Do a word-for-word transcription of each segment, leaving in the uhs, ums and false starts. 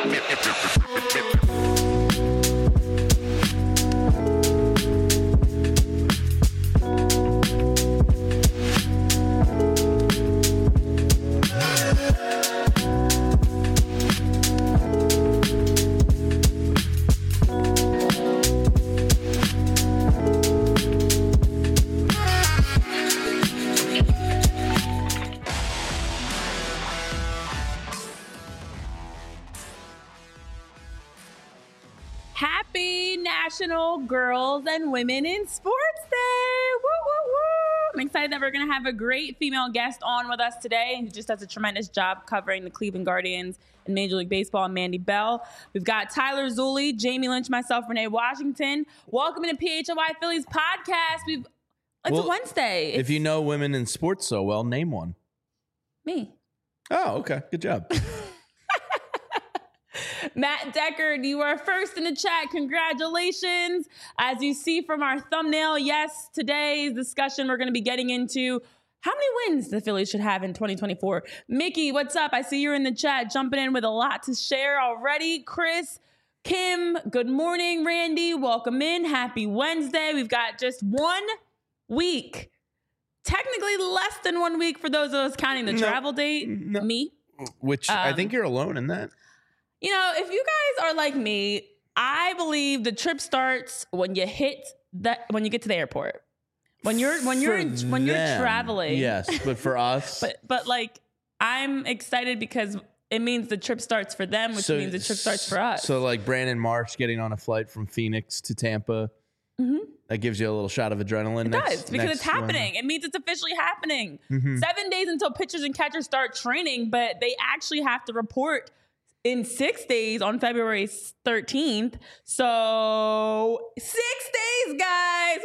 National Girls and Women in Sports Day. Woo, woo, woo. I'm excited that we're going to have a great female guest on with us today. Who just does a tremendous job covering the Cleveland Guardians and Major League Baseball, Mandy Bell. We've got Tyler Zulli, Jamie Lynch, myself, Renee Washington. Welcome to P H L Y Phillies podcast. We've It's well, a Wednesday. It's, if you know women in sports so well, name one. Me. Oh, okay. Good job. Matt Deckard, you are first in the chat. Congratulations. As you see from our thumbnail, yes, today's discussion, we're going to be getting into how many wins the Phillies should have in twenty twenty-four. Mickey, what's up? I see you're in the chat, jumping in with a lot to share already. Chris, Kim, good morning. Randy, welcome in. Happy Wednesday. We've got just one week, technically less than one week for those of us counting the no, travel date. No. Me. Which um, I think you're alone in that. You know, if you guys are like me, I believe the trip starts when you hit that when you get to the airport. When you're when you're in, when you're them, traveling. Yes, but for us, but but like I'm excited because it means the trip starts for them, which so, means the trip starts for us. So like Brandon Marsh getting on a flight from Phoenix to Tampa. Mm-hmm. That gives you a little shot of adrenaline. It next, does because next it's happening. one. It means it's officially happening. Mm-hmm. Seven days until pitchers and catchers start training, but they actually have to report in six days on February thirteenth. So six days, guys.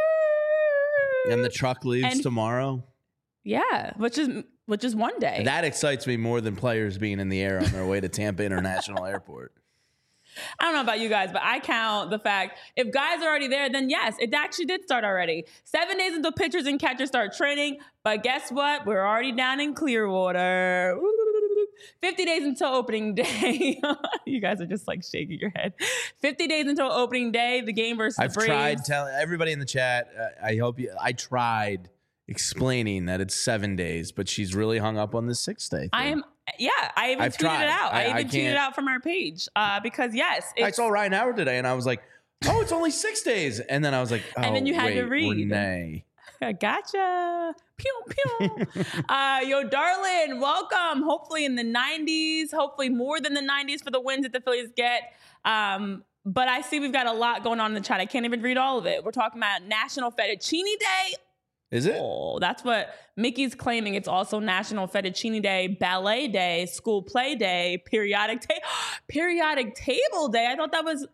Woo! And the truck leaves and, tomorrow. Yeah, which is which is one day. That excites me more than players being in the air on their way to Tampa International Airport. I don't know about you guys, but I count the fact if guys are already there, then yes, it actually did start already. Seven days until pitchers and catchers start training. But guess what? We're already down in Clearwater. fifty days until opening day. You guys are just like shaking your head. fifty days until opening day. The game versus I've the Braves. tried telling everybody in the chat. Uh, I hope you. I tried explaining that it's seven days, but she's really hung up on this six day thing. I am. Yeah, I even I've tweeted tried. it out. I, I even I tweeted it out from our page uh, because yes, I saw Ryan Howard today, and I was like, "Oh, it's only six days," and then I was like, "Oh, and then you had wait, to read." Renee. Gotcha. Pew, pew. uh, yo, darling, welcome. Hopefully in the nineties, hopefully more than the nineties for the wins that the Phillies get. Um, but I see we've got a lot going on in the chat. I can't even read all of it. We're talking about National Fettuccine Day. Is it? Oh, that's what Mickey's claiming. It's also National Fettuccine Day, Ballet Day, School Play Day, Periodic ta- Periodic Table Day. I thought that was...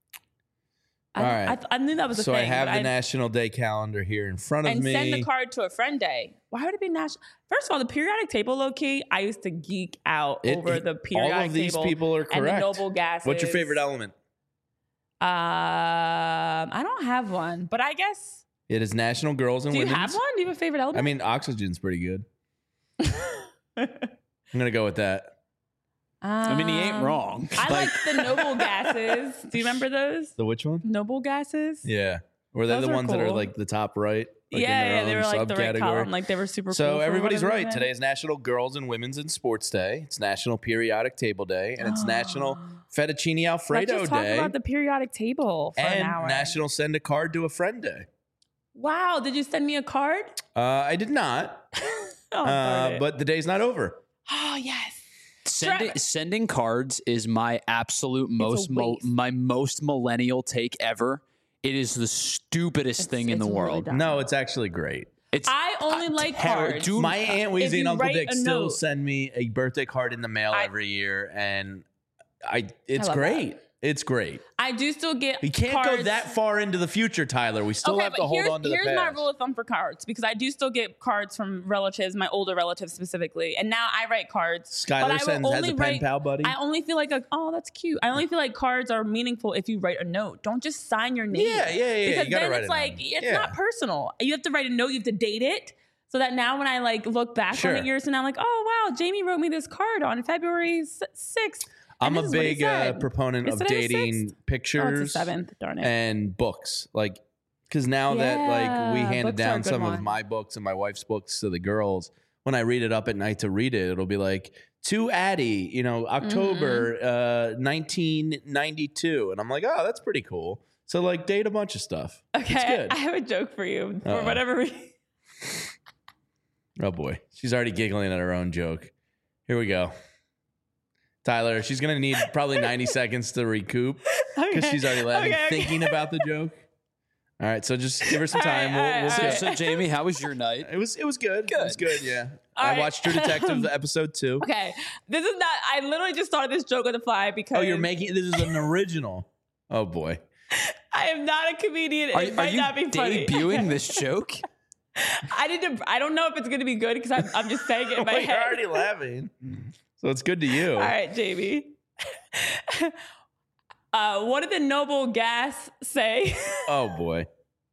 I, All right. I, I knew that was a so thing. So I have the I, National Day calendar here in front of and me. And send the card to a friend day. Why would it be national? First of all, the periodic table, low key, I used to geek out it, over the periodic table. All of these table people are correct. And the noble gases. What's your favorite element? Um, I don't have one, but I guess. It is National Girls and Women's. Do you have one? Do you have a favorite element? I mean, oxygen's pretty good. I'm going to go with that. Um, I mean, he ain't wrong. I like the noble gases. Do you remember those? The which one? Noble gases. Yeah. Were they those the ones cool. that are like the top right? Like yeah, in their yeah, own they were like the right column. Like they were super so cool. So everybody's right. Reason. Today is National Girls and Women's in Sports Day. It's National Periodic Table Day. And it's oh. National Fettuccine Alfredo Let's just talk Day. About the periodic table for and an hour. National Send a Card to a Friend Day. Wow. Did you send me a card? Uh, I did not. oh, uh, but the day's not over. Oh, yes. Sending, sending cards is my absolute most mo- my most millennial take ever. It is the stupidest it's, thing in the really world. dumb. No, it's actually great. It's I only uh, like ter- cards. Dude, my Aunt Weezy and Uncle Dick still note. send me a birthday card in the mail I, every year, and I it's I great. That. It's great. I do still get You can't cards. go that far into the future, Tyler. We still okay, have to hold on to the past. Here's my rule of thumb for cards, because I do still get cards from relatives, my older relatives specifically. And now I write cards. Skylar sends has a pen write, pal buddy. I only feel like, a, oh, that's cute. I only feel like cards are meaningful if you write a note. Don't just sign your name. Yeah, yeah, yeah. Because you gotta then write it's it like, down. it's yeah. not personal. You have to write a note. You have to date it. So that now when I like look back sure. on it years and I'm like, oh, wow, Jamie wrote me this card on February sixth. I'm And a this is what he big uh, said. proponent Is of today the dating sixth? pictures Oh, it's the seventh. Darn it. and books. Like, because now that like we Yeah, handed books are a down good some of one. my books and my wife's books to the girls, when I read it up at night to read it, it'll be like, to Addie, you know, October uh, nineteen ninety-two. And I'm like, oh, that's pretty cool. So, like, date a bunch of stuff. It's Okay, good. I have a joke for you. For Uh-oh. whatever reason. Oh, boy. She's already giggling at her own joke. Here we go. Tyler, she's going to need probably ninety seconds to recoup because Okay. she's already laughing, Okay, okay. thinking about the joke. All right, so just give her some All right, time. all we'll, right, we'll all So, get- so Jamie, how was your night? It was it was good. Good. It was good, yeah. All I right. watched True Detective episode two. Okay, this is not. I literally just started this joke on the fly because Oh, you're making this is an original. Oh boy. I am not a comedian. Are, It are might you not be funny. debuting this joke? I need to. I don't know if it's going to be good because I'm, I'm just saying it in my Well, you're head. already laughing. So it's good to you. All right, Jamie. uh, what did the noble gas say? Oh boy.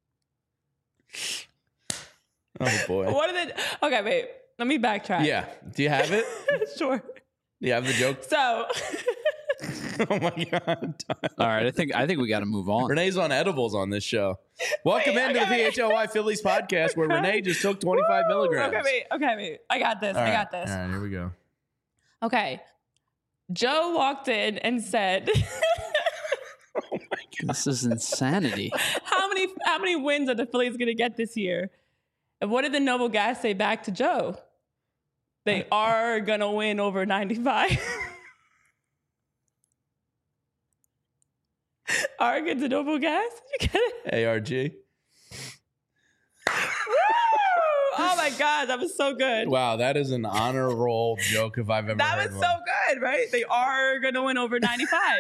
Oh boy. What did it? Okay, wait. Let me backtrack. Yeah. Do you have it? Sure. Do you have the joke? So, Oh my god. All right, I think I think we got to move on. Renee's on edibles on this show. Welcome Wait, into the okay, P wait. H L Y Phillies podcast where Renee just took twenty-five Woo! milligrams. Okay, wait. Okay, wait. I got this. All I right. got this. All right, here we go. Okay. Joe walked in and said, Oh my god. This is insanity. "How many how many wins are the Phillies going to get this year?" And what did the noble gas say back to Joe? They are going to win over ninety-five. Arrogant to noble gas? You get it? A R G. Woo! Oh my God, that was so good. Wow, that is an honor roll joke if I've ever That heard was one. so good, right? They are going to win over ninety-five.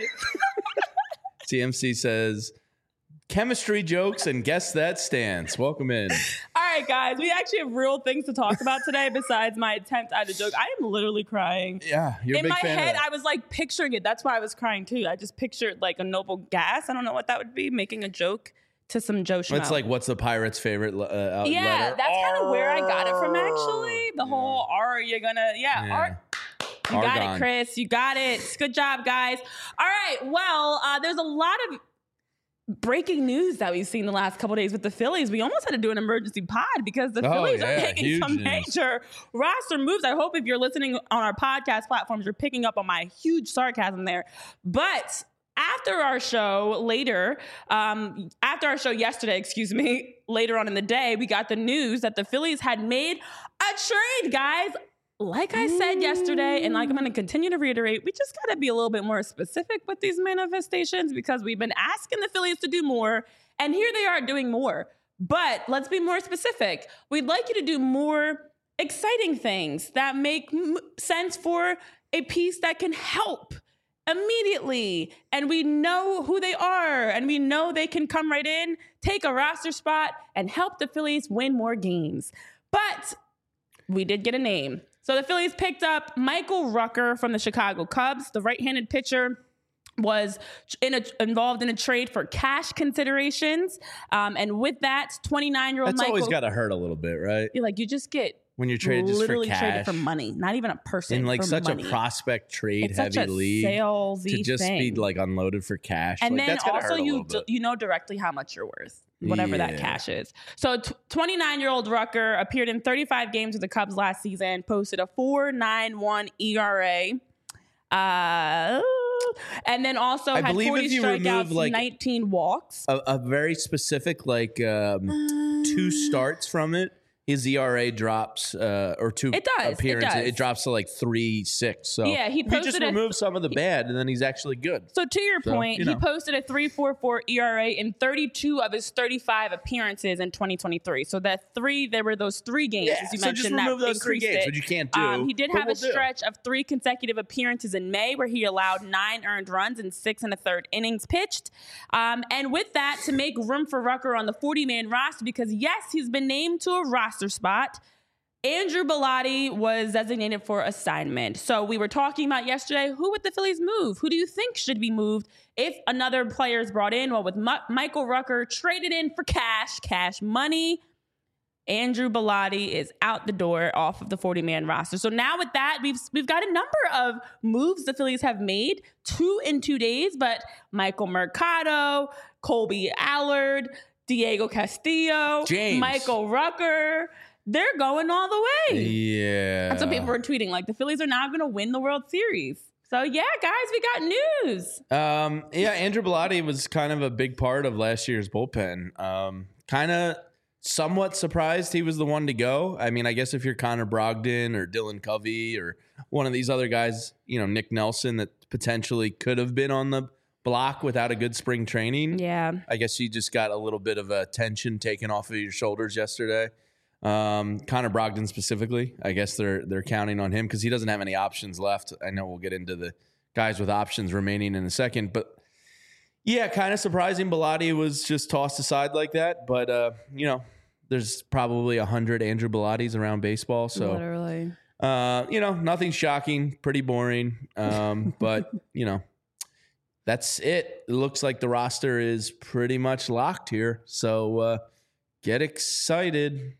T M C says, chemistry jokes and guess that stance. Welcome in. All right, guys, we actually have real things to talk about today besides my attempt at a joke. I am literally crying. Yeah, you're a In big my fan head, of that. I was like picturing it. That's why I was crying too. I just pictured like a noble gas. I don't know what that would be, making a joke to some Joe Schmo. It's like, what's the pirate's favorite uh, uh, yeah, letter? that's kind of where I got it from, R. actually. The whole R, you're gonna, yeah, Yeah. R. You got Argon. it, Chris. You got it. Good job, guys. All right. Well, uh, there's a lot of breaking news that we've seen the last couple days with the Phillies. We almost had to do an emergency pod because the Oh, Phillies yeah, are making huge some news. major roster moves. I hope if you're listening on our podcast platforms, you're picking up on my huge sarcasm there. But after our show later, um, after our show yesterday, excuse me, later on in the day, we got the news that the Phillies had made a trade, guys. Like I said yesterday, and like I'm going to continue to reiterate, we just got to be a little bit more specific with these manifestations because we've been asking the Phillies to do more, and here they are doing more. But let's be more specific. We'd like you to do more exciting things that make m- sense for a piece that can help immediately. And we know who they are, and we know they can come right in, take a roster spot, and help the Phillies win more games. But we did get a name. So the Phillies picked up Michael Rucker from the Chicago Cubs. The right-handed pitcher was in a, involved in a trade for cash considerations. Um, and with that, twenty-nine-year-old That's Michael... always got to hurt a little bit, right? You're like, you just get When you're traded just for literally cash. traded for money. Not even a person, in like for such money. a prospect trade It's such heavy a league salesy to just thing. be like unloaded for cash. And like, then that's gotta also hurt a you little d- bit. you know directly how much you're worth, whatever that Yeah. cash is. So twenty-nine-year-old Rucker appeared in thirty-five games with the Cubs last season, posted a four point nine one E R A. Uh, and then also I had believe forty if you strikeouts, remove, like, nineteen walks. a, a very specific like um, two starts from it. His E R A drops, uh, or two It does, it appearances. does. It drops to like three six. So Yeah, he if you just posted a- remove some of the bad, and then he's actually good. So to your So, point, you he know. posted a three point four four E R A in thirty-two of his thirty-five appearances in twenty twenty-three. So that three, there were those three games, as you so mentioned, just remove that those three increased games, it. which you can't do. Um, he did but have we'll a do. stretch of three consecutive appearances in May where he allowed nine earned runs in six and a third innings pitched. Um, and with that, to make room for Rucker on the forty-man roster, because yes, he's been named to a roster spot, Andrew Bellotti was designated for assignment. So we were talking about yesterday, who would the Phillies move? Who do you think should be moved if another player is brought in? Well, with M- Michael Rucker traded in for cash, cash money, Andrew Bellotti is out the door off of the forty-man roster. So now with that, we've we've got a number of moves the Phillies have made, two in two days, but Michael Mercado, Colby Allard, Diego Castillo, James. Michael Rucker, they're going all the way. Yeah. That's what people were tweeting. Like, the Phillies are now going to win the World Series. So, yeah, guys, we got news. Um, yeah, Andrew Bellotti was kind of a big part of last year's bullpen. Um, kind of somewhat surprised he was the one to go. I mean, I guess if you're Connor Brogdon or Dylan Covey or one of these other guys, you know, Nick Nelson, that potentially could have been on the block without a good spring training. Yeah. I guess you just got a little bit of a tension taken off of your shoulders yesterday. Um, Connor Brogdon specifically, I guess they're they're counting on him because he doesn't have any options left. I know we'll get into the guys with options remaining in a second, but yeah, kind of surprising Bellotti was just tossed aside like that. But uh, you know, there's probably a hundred Andrew Bellottis around baseball, so Literally. uh, you know, nothing shocking, pretty boring. Um, but you know, that's it. It looks like the roster is pretty much locked here. So uh, get excited.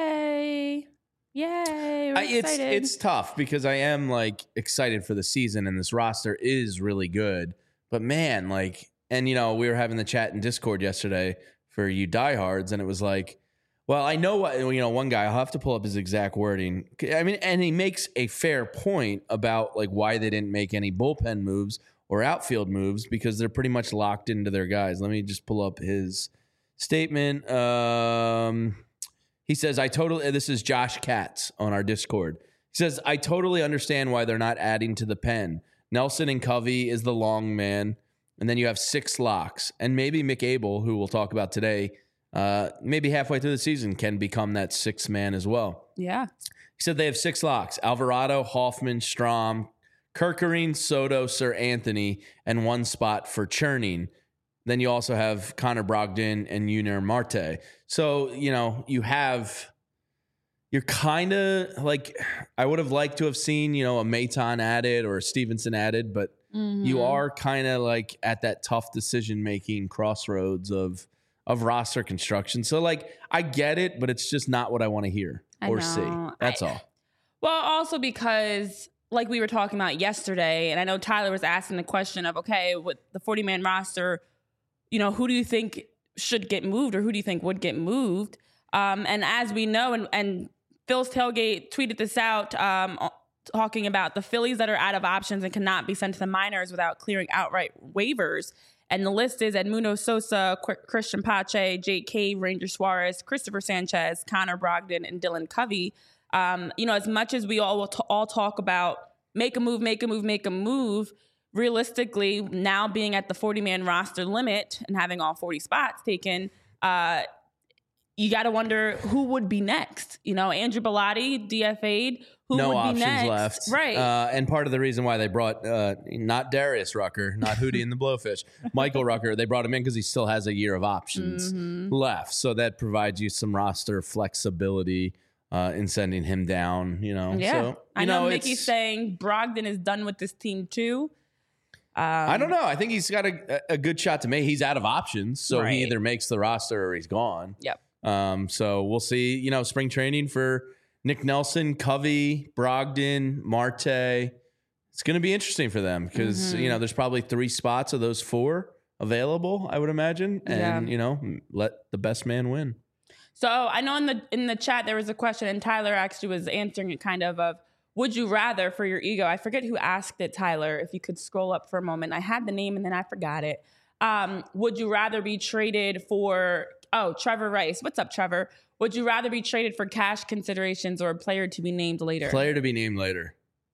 Yay. Yay. We're I, it's excited. it's tough because I am like excited for the season and this roster is really good. But man, like, and you know, we were having the chat in Discord yesterday for you diehards, and it was like, well, I know what, you know, one guy, I'll have to pull up his exact wording. I mean, and he makes a fair point about like why they didn't make any bullpen moves or outfield moves because they're pretty much locked into their guys. Let me just pull up his statement. Um, he says, I totally, this is Josh Katz on our Discord. He says, I totally understand why they're not adding to the pen. Nelson and Covey is the long man. And then you have six locks. And maybe Mick Abel, who we'll talk about today, uh, maybe halfway through the season can become that sixth man as well. Yeah. He said they have six locks: Alvarado, Hoffman, Strom, Kerkering, Soto, Sir Anthony, and one spot for churning. Then you also have Connor Brogdon and Yunior Marte. So, you know, you have, you're kind of like, I would have liked to have seen, you know, a Maton added or a Stevenson added, but mm-hmm. you are kind of like at that tough decision-making crossroads of, of roster construction. So, like, I get it, but it's just not what I want to hear I or know. see. That's I, all. Well, also because, like we were talking about yesterday, and I know Tyler was asking the question of, okay, with the forty-man roster, you know, who do you think should get moved or who do you think would get moved? Um, and as we know, and, and Phil's Tailgate tweeted this out, um, talking about the Phillies that are out of options and cannot be sent to the minors without clearing outright waivers. And the list is Edmundo Sosa, Qu- Christian Pache, Jake Cave, Ranger Suarez, Christopher Sanchez, Connor Brogdon, and Dylan Covey. Um, you know, as much as we all will t- all talk about make a move, make a move, make a move, realistically, now being at the forty-man roster limit and having all forty spots taken, uh, you got to wonder who would be next. You know, Andrew Bellotti, D F A'd. Who no would be options next? left. Right. Uh, and part of the reason why they brought uh, not Darius Rucker, not Hootie and the Blowfish, Michael Rucker, they brought him in because he still has a year of options mm-hmm. left. So that provides you some roster flexibility uh, in sending him down, you know. Yeah. So, you I know, know Mickey's saying Brogdon is done with this team too. Um, I don't know. I think he's got a, a good shot to make. He's out of options, so right. he either makes the roster or he's gone. Yep. Um, so we'll see, you know, spring training for Nick Nelson, Covey, Brogdon, Marte. It's going to be interesting for them because, mm-hmm. you know, there's probably three spots of those four available, I would imagine. And, yeah. you know, let the best man win. So I know in the in the chat there was a question, and Tyler actually was answering it kind of of, would you rather for your ego? I forget who asked it, Tyler, if you could scroll up for a moment. I had the name and then I forgot it. Um, would you rather be traded for, oh, Trevor Rice. What's up, Trevor? Would you rather be traded for cash considerations or a player to be named later? Player to be named later.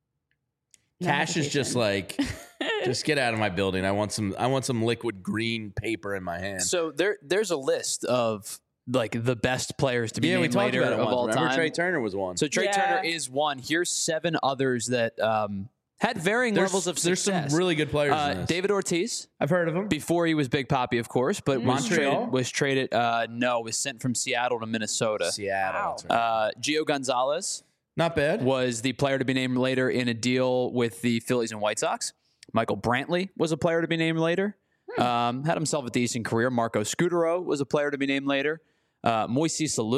Cash is just like, just get out of my building. I want some. I want some liquid green paper in my hand. So there, there's a list of like the best players to be yeah, named we talked later about it of once. all Remember time. Trey Turner was one. So Trey yeah. Turner is one. Here's seven others that um, had varying there's, levels of there's success. There's some really good players. Uh, in this. David Ortiz. I've heard of him before he was Big Papi, of course, but mm-hmm. was Montreal traded. Was traded. Uh, no, was sent from Seattle to Minnesota. Seattle. Wow. Uh, Gio Gonzalez. Not bad. Was the player to be named later in a deal with the Phillies and White Sox. Michael Brantley was a player to be named later. Hmm. Um, had himself a decent career. Marco Scutaro was a player to be named later. Uh, Moises Alou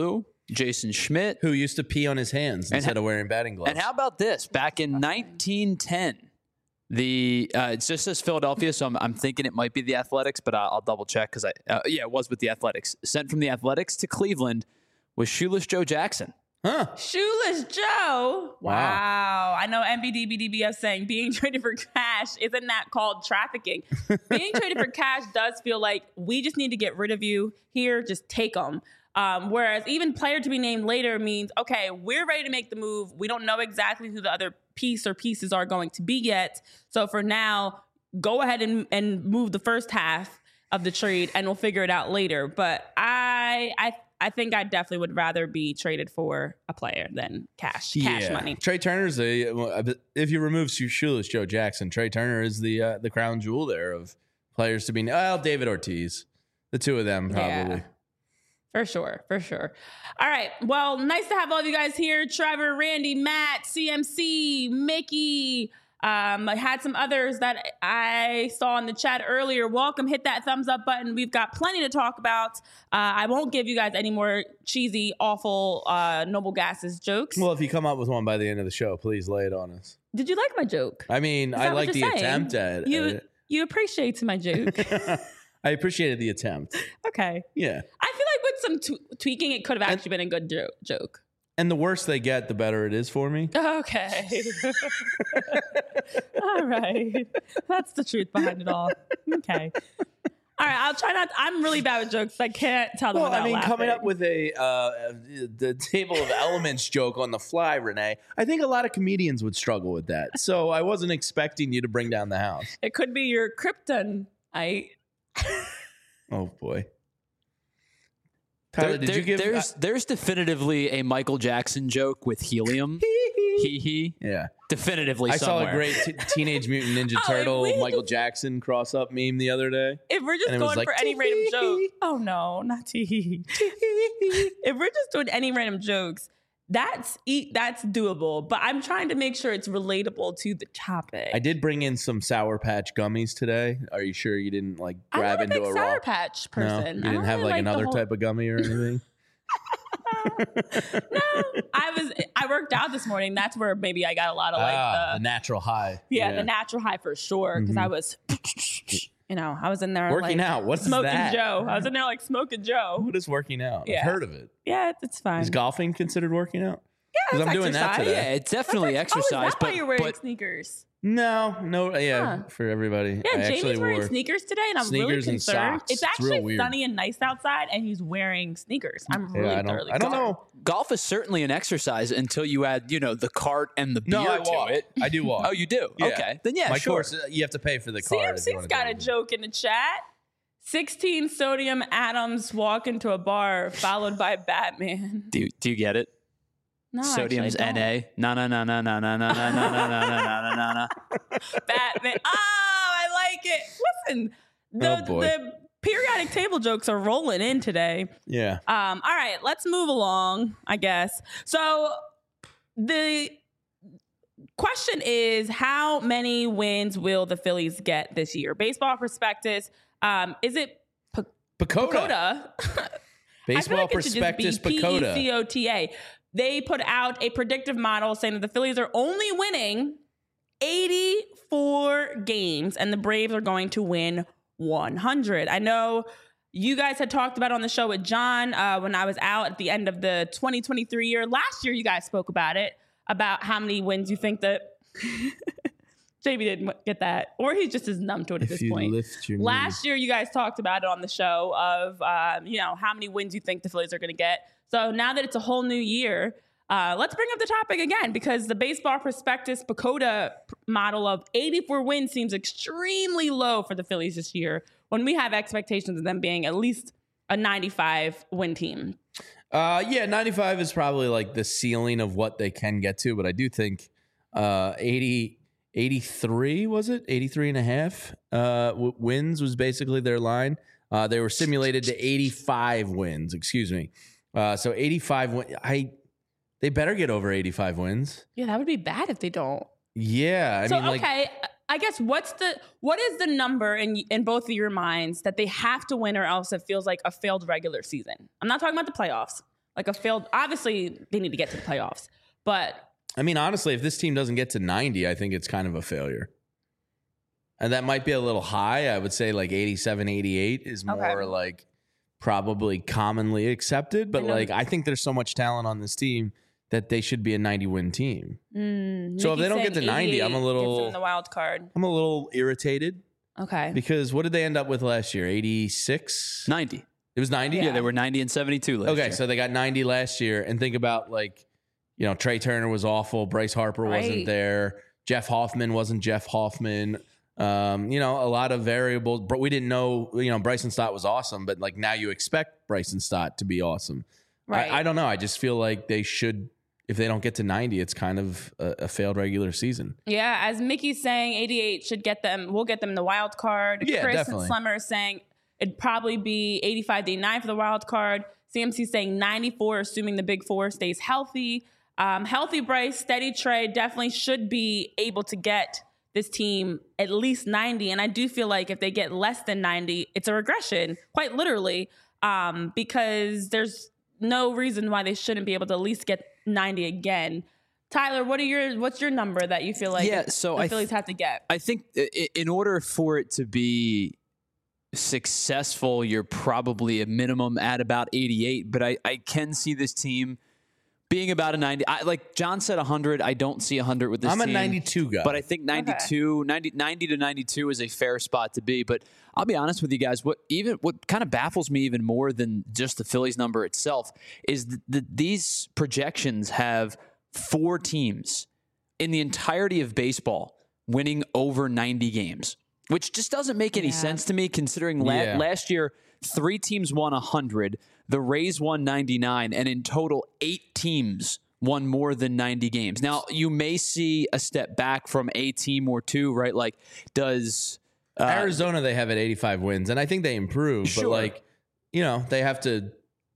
Jason Schmidt. Who used to pee on his hands And instead ha- of wearing batting gloves. And how about this? Back in nineteen ten, the uh, it just says Philadelphia, so I'm, I'm thinking it might be the Athletics, but I'll, I'll double check because I uh, yeah, it was with the Athletics. Sent from the Athletics to Cleveland was Shoeless Joe Jackson. Huh. Shoeless Joe. Wow. Wow. I know M B D B D B F saying being traded for cash, isn't that called trafficking? Being traded for cash does feel like we just need to get rid of you here. Just take them. Um, whereas even player to be named later means, okay, we're ready to make the move. We don't know exactly who the other piece or pieces are going to be yet. So for now, go ahead and, and move the first half of the trade and we'll figure it out later. But I, I, I think I definitely would rather be traded for a player than cash, cash Yeah. money. Trey Turner's the if you remove Shoeless Joe Jackson, Trey Turner is the uh, the crown jewel there of players to be. Well, David Ortiz, the two of them probably. Yeah. For sure, for sure. All right. Well, nice to have all of you guys here. Trevor, Randy, Matt, C M C, Mickey. Um, I had some others that I saw in the chat earlier. Welcome. Hit that thumbs up button. We've got plenty to talk about. Uh, I won't give you guys any more cheesy, awful uh, Noble Gases jokes. Well, if you come up with one by the end of the show, please lay it on us. Did you like my joke? I mean, Is I that what like the you're saying? attempt at You, it. you appreciate my joke. I appreciated the attempt. Okay. Yeah. I feel like with some t- tweaking, it could have actually been a good jo- joke. And the worse they get, the better it is for me. Okay. All right. That's the truth behind it all. Okay. All right. I'll try not. I'm really bad with jokes. I can't tell them Well, without I mean, laughing. coming up with a uh, the table of elements joke on the fly, Renee, I think a lot of comedians would struggle with that. So I wasn't expecting you to bring down the house. It could be your krypton. I. Oh boy. Tyler, There- did there- you give? there's there's definitively a Michael Jackson joke with helium. Hee hee. yeah, Definitively I somewhere. saw a great t- Teenage Mutant Ninja Oh, if Turtle we Michael Jackson cross up meme the other day. If we're just And it was going like, for any random tee-hee. joke. Oh no, not tee. If we're just doing any random jokes, that's e- that's doable. But I'm trying to make sure it's relatable to the topic. I did bring in some Sour Patch gummies today. Are you sure you didn't like I'm grab not a into big a Sour raw? Patch No, person. you I didn't don't have really like the another whole- type of gummy or anything. No, I was. I worked out this morning. That's where maybe I got a lot of like ah, the the natural high. yeah, the natural high for sure. Because I was, you know, I was in there Working like, out. What is smoking that? Joe. I was in there like smoking Joe. What is working out? Yeah. I've heard of it. Yeah, it's, it's fine. Is golfing considered working out? yeah, Because it's I'm doing that exercise. today. Yeah, it's definitely That's like- exercise, Oh, is that but, why you're wearing but sneakers? No, no, yeah, Huh. for everybody. Yeah, I Jamie's actually wearing wore sneakers today, and I'm really sneakers and concerned. socks. It's It's real actually weird. sunny and nice outside, and he's wearing sneakers. I'm Yeah, really I don't, thoroughly I don't concerned. know. golf is certainly an exercise until you add, you know, the cart and the beer No, I to walk. it. I do walk. Oh, you do? Yeah. Okay. Then yeah, My sure. course, uh, you have to pay for the card. if you C M C's wanna got do a it. joke in the chat. sixteen sodium atoms walk into a bar, followed by Batman. Do you, do you get it? No, Sodium's actually, I N A. No, no, no, no, no, no, no, no, no, no, no, no, no, no, no. don't. Batman. Oh, I like it. Listen, the, Oh, boy. the periodic table jokes are rolling in today. Yeah. Um, all right, let's move along, I guess. So the question is, how many wins will the Phillies get this year? Baseball Prospectus. Um, is it P- Pacoda. Pacoda? I feel Baseball like it should just be Prospectus P E Pacoda. C O T A. They put out a predictive model saying that the Phillies are only winning eighty-four games and the Braves are going to win one hundred. I know you guys had talked about it on the show with John uh, when I was out at the end of the twenty twenty-three year. Last year, you guys spoke about it, about how many wins you think that J B didn't get that, or he just is numb to it at If this you point. lift your Last year, you guys talked about it on the show of, um, you know, how many wins you think the Phillies are going to get. So now that it's a whole new year, uh, let's bring up the topic again, because the Baseball Prospectus Pacoda model of eighty-four wins seems extremely low for the Phillies this year, when we have expectations of them being at least a ninety-five win team. Uh, yeah, ninety-five is probably like the ceiling of what they can get to, but I do think uh, eighty, eighty-three, was it? eighty-three and a half uh, w- wins was basically their line. Uh, they were simulated to eighty-five wins, excuse me. Uh, so eighty-five win- I they better get over eighty-five wins. Yeah, that would be bad if they don't. Yeah, I so, mean, like, okay, I guess what's the what is the number in in both of your minds that they have to win, or else it feels like a failed regular season? I'm not talking about the playoffs. like a failed. Obviously, they need to get to the playoffs, but I mean, honestly, if this team doesn't get to ninety, I think it's kind of a failure. And that might be a little high. I would say like eighty-seven, eighty-eight is more Okay. like probably commonly accepted. But I know- like, I think there's so much talent on this team that they should be a ninety win team. mm, So if they Nikki's don't get to saying ninety, I'm a eighty-eight little- gives them the wild card. I'm a little irritated Okay. because what did they end up with last year? eighty-six? ninety. It was ninety? Yeah, they were ninety and seventy-two last Okay, year. so they got ninety last year. And think about like, you know, Trey Turner was awful. Bryce Harper Right. wasn't there. Jeff Hoffman wasn't Jeff Hoffman. Um, you know, a lot of variables. But we didn't know, you know, Bryson Stott was awesome. But like now you expect Bryson Stott to be awesome. Right. I, I don't know. I just feel like they should, if they don't get to ninety, it's kind of a, a failed regular season. Yeah, as Mickey's saying, eighty-eight should get them. We'll get them the wild card. Yeah, Chris definitely. and Slemmer is saying it'd probably be eighty-five to eighty-nine for the wild card. C M C saying ninety-four, assuming the big four stays healthy. Um, healthy Bryce, steady Trey definitely should be able to get this team at least ninety. And I do feel like if they get less than ninety, it's a regression, quite literally, um, because there's no reason why they shouldn't be able to at least get ninety again. Tyler, what are your what's your number that you feel like Yeah, so the I Phillies th- have to get? I think i- in order for it to be successful, you're probably a minimum at about eighty-eight. But I, I can see this team being about a ninety. I, like John said, one hundred. I don't see one hundred with this I'm a team. ninety-two guy. But I think ninety-two, ninety, ninety to ninety-two is a fair spot to be. But I'll be honest with you guys, what even what kind of baffles me even more than just the Phillies number itself is that the, these projections have four teams in the entirety of baseball winning over ninety games, which just doesn't make any Yeah. sense to me considering la- Yeah. last year three teams won one hundred, the Rays won ninety-nine, and in total eight teams won more than ninety games. Now, you may see a step back from a team or two, right? Like, does uh, Arizona, they have at eighty-five wins, and I think they improved. Sure. But like, you know, they have to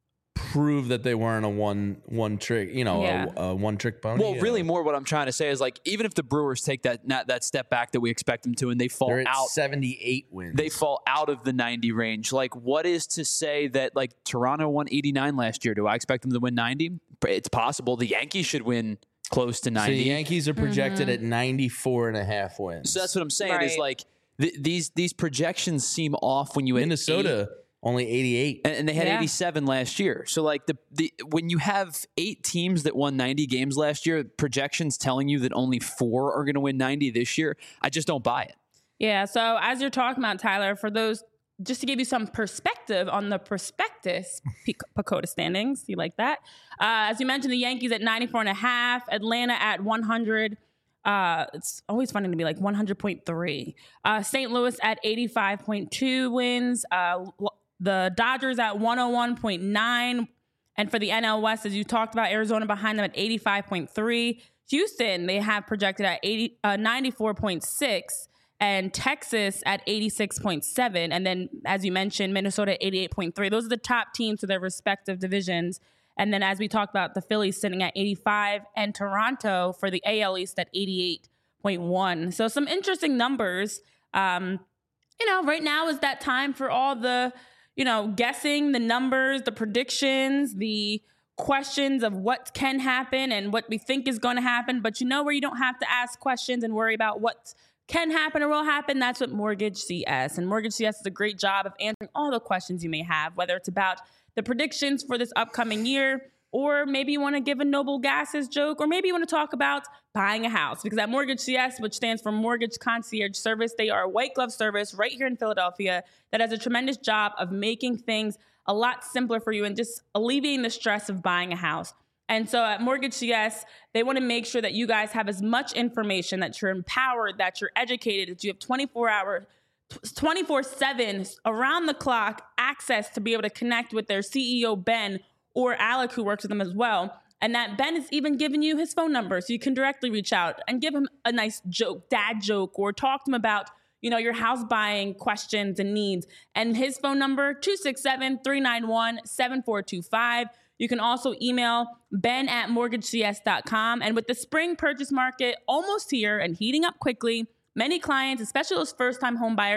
prove that they weren't a one one trick, you know, Yeah. a, a one trick pony. well, Uh, really more what I'm trying to say is like, even if the Brewers take that that, that step back that we expect them to and they fall they're at out seventy-eight wins. they fall out of the ninety range. Like, what is to say that like Toronto won eighty-nine last year? Do I expect them to win ninety? It's possible. The Yankees should win close to So ninety. the Yankees are projected Mm-hmm. at ninety-four and a half wins. So that's what I'm saying is Right. like th- these these projections seem off when you hit eight- Minnesota only eighty-eight. and, and they had Yeah. eighty-seven last year. So like the the when you have eight teams that won ninety games last year, projections telling you that only four are going to win ninety this year, I just don't buy it. Yeah, so as you're talking about, Tyler, for those, just to give you some perspective on the prospectus P- Pacoda standings, you like that? Uh, as you mentioned, the Yankees at ninety-four and a half, Atlanta at one hundred. Uh, it's always funny to be like one hundred point three. Uh, Saint Louis at eighty-five point two wins. Uh, l- the Dodgers at one oh one point nine. And for the N L West, as you talked about, Arizona behind them at eighty-five point three. Houston, they have projected at eighty, uh, ninety-four point six. And Texas at eighty-six point seven. And then, as you mentioned, Minnesota at eighty-eight point three. Those are the top teams for their respective divisions. And then, as we talked about, the Phillies sitting at eighty-five and Toronto for the A L East at eighty-eight point one. So some interesting numbers. Um, you know, right now is that time for all the, you know, guessing, the numbers, the predictions, the questions of what can happen and what we think is going to happen. But you know where you don't have to ask questions and worry about what can happen or will happen? That's what Mortgage C S. And Mortgage C S does a great job of answering all the questions you may have, whether it's about the predictions for this upcoming year, or maybe you want to give a Noble Gases joke, or maybe you want to talk about buying a house. Because at Mortgage C S, which stands for Mortgage Concierge Service, they are a white glove service right here in Philadelphia that has a tremendous job of making things a lot simpler for you and just alleviating the stress of buying a house. And so at Mortgage C S, they want to make sure that you guys have as much information, that you're empowered, that you're educated, that you have twenty-four hour, twenty-four seven around the clock access to be able to connect with their C E O, Ben, or Alec, who works with them as well. And that Ben is even giving you his phone number so you can directly reach out and give him a nice joke, dad joke, or talk to him about, you know, your house buying questions and needs. And his phone number, two six seven, three nine one, seven four two five. You can also email ben at mortgage c s dot com. And with the spring purchase market almost here and heating up quickly, many clients, especially those first-time home buyers,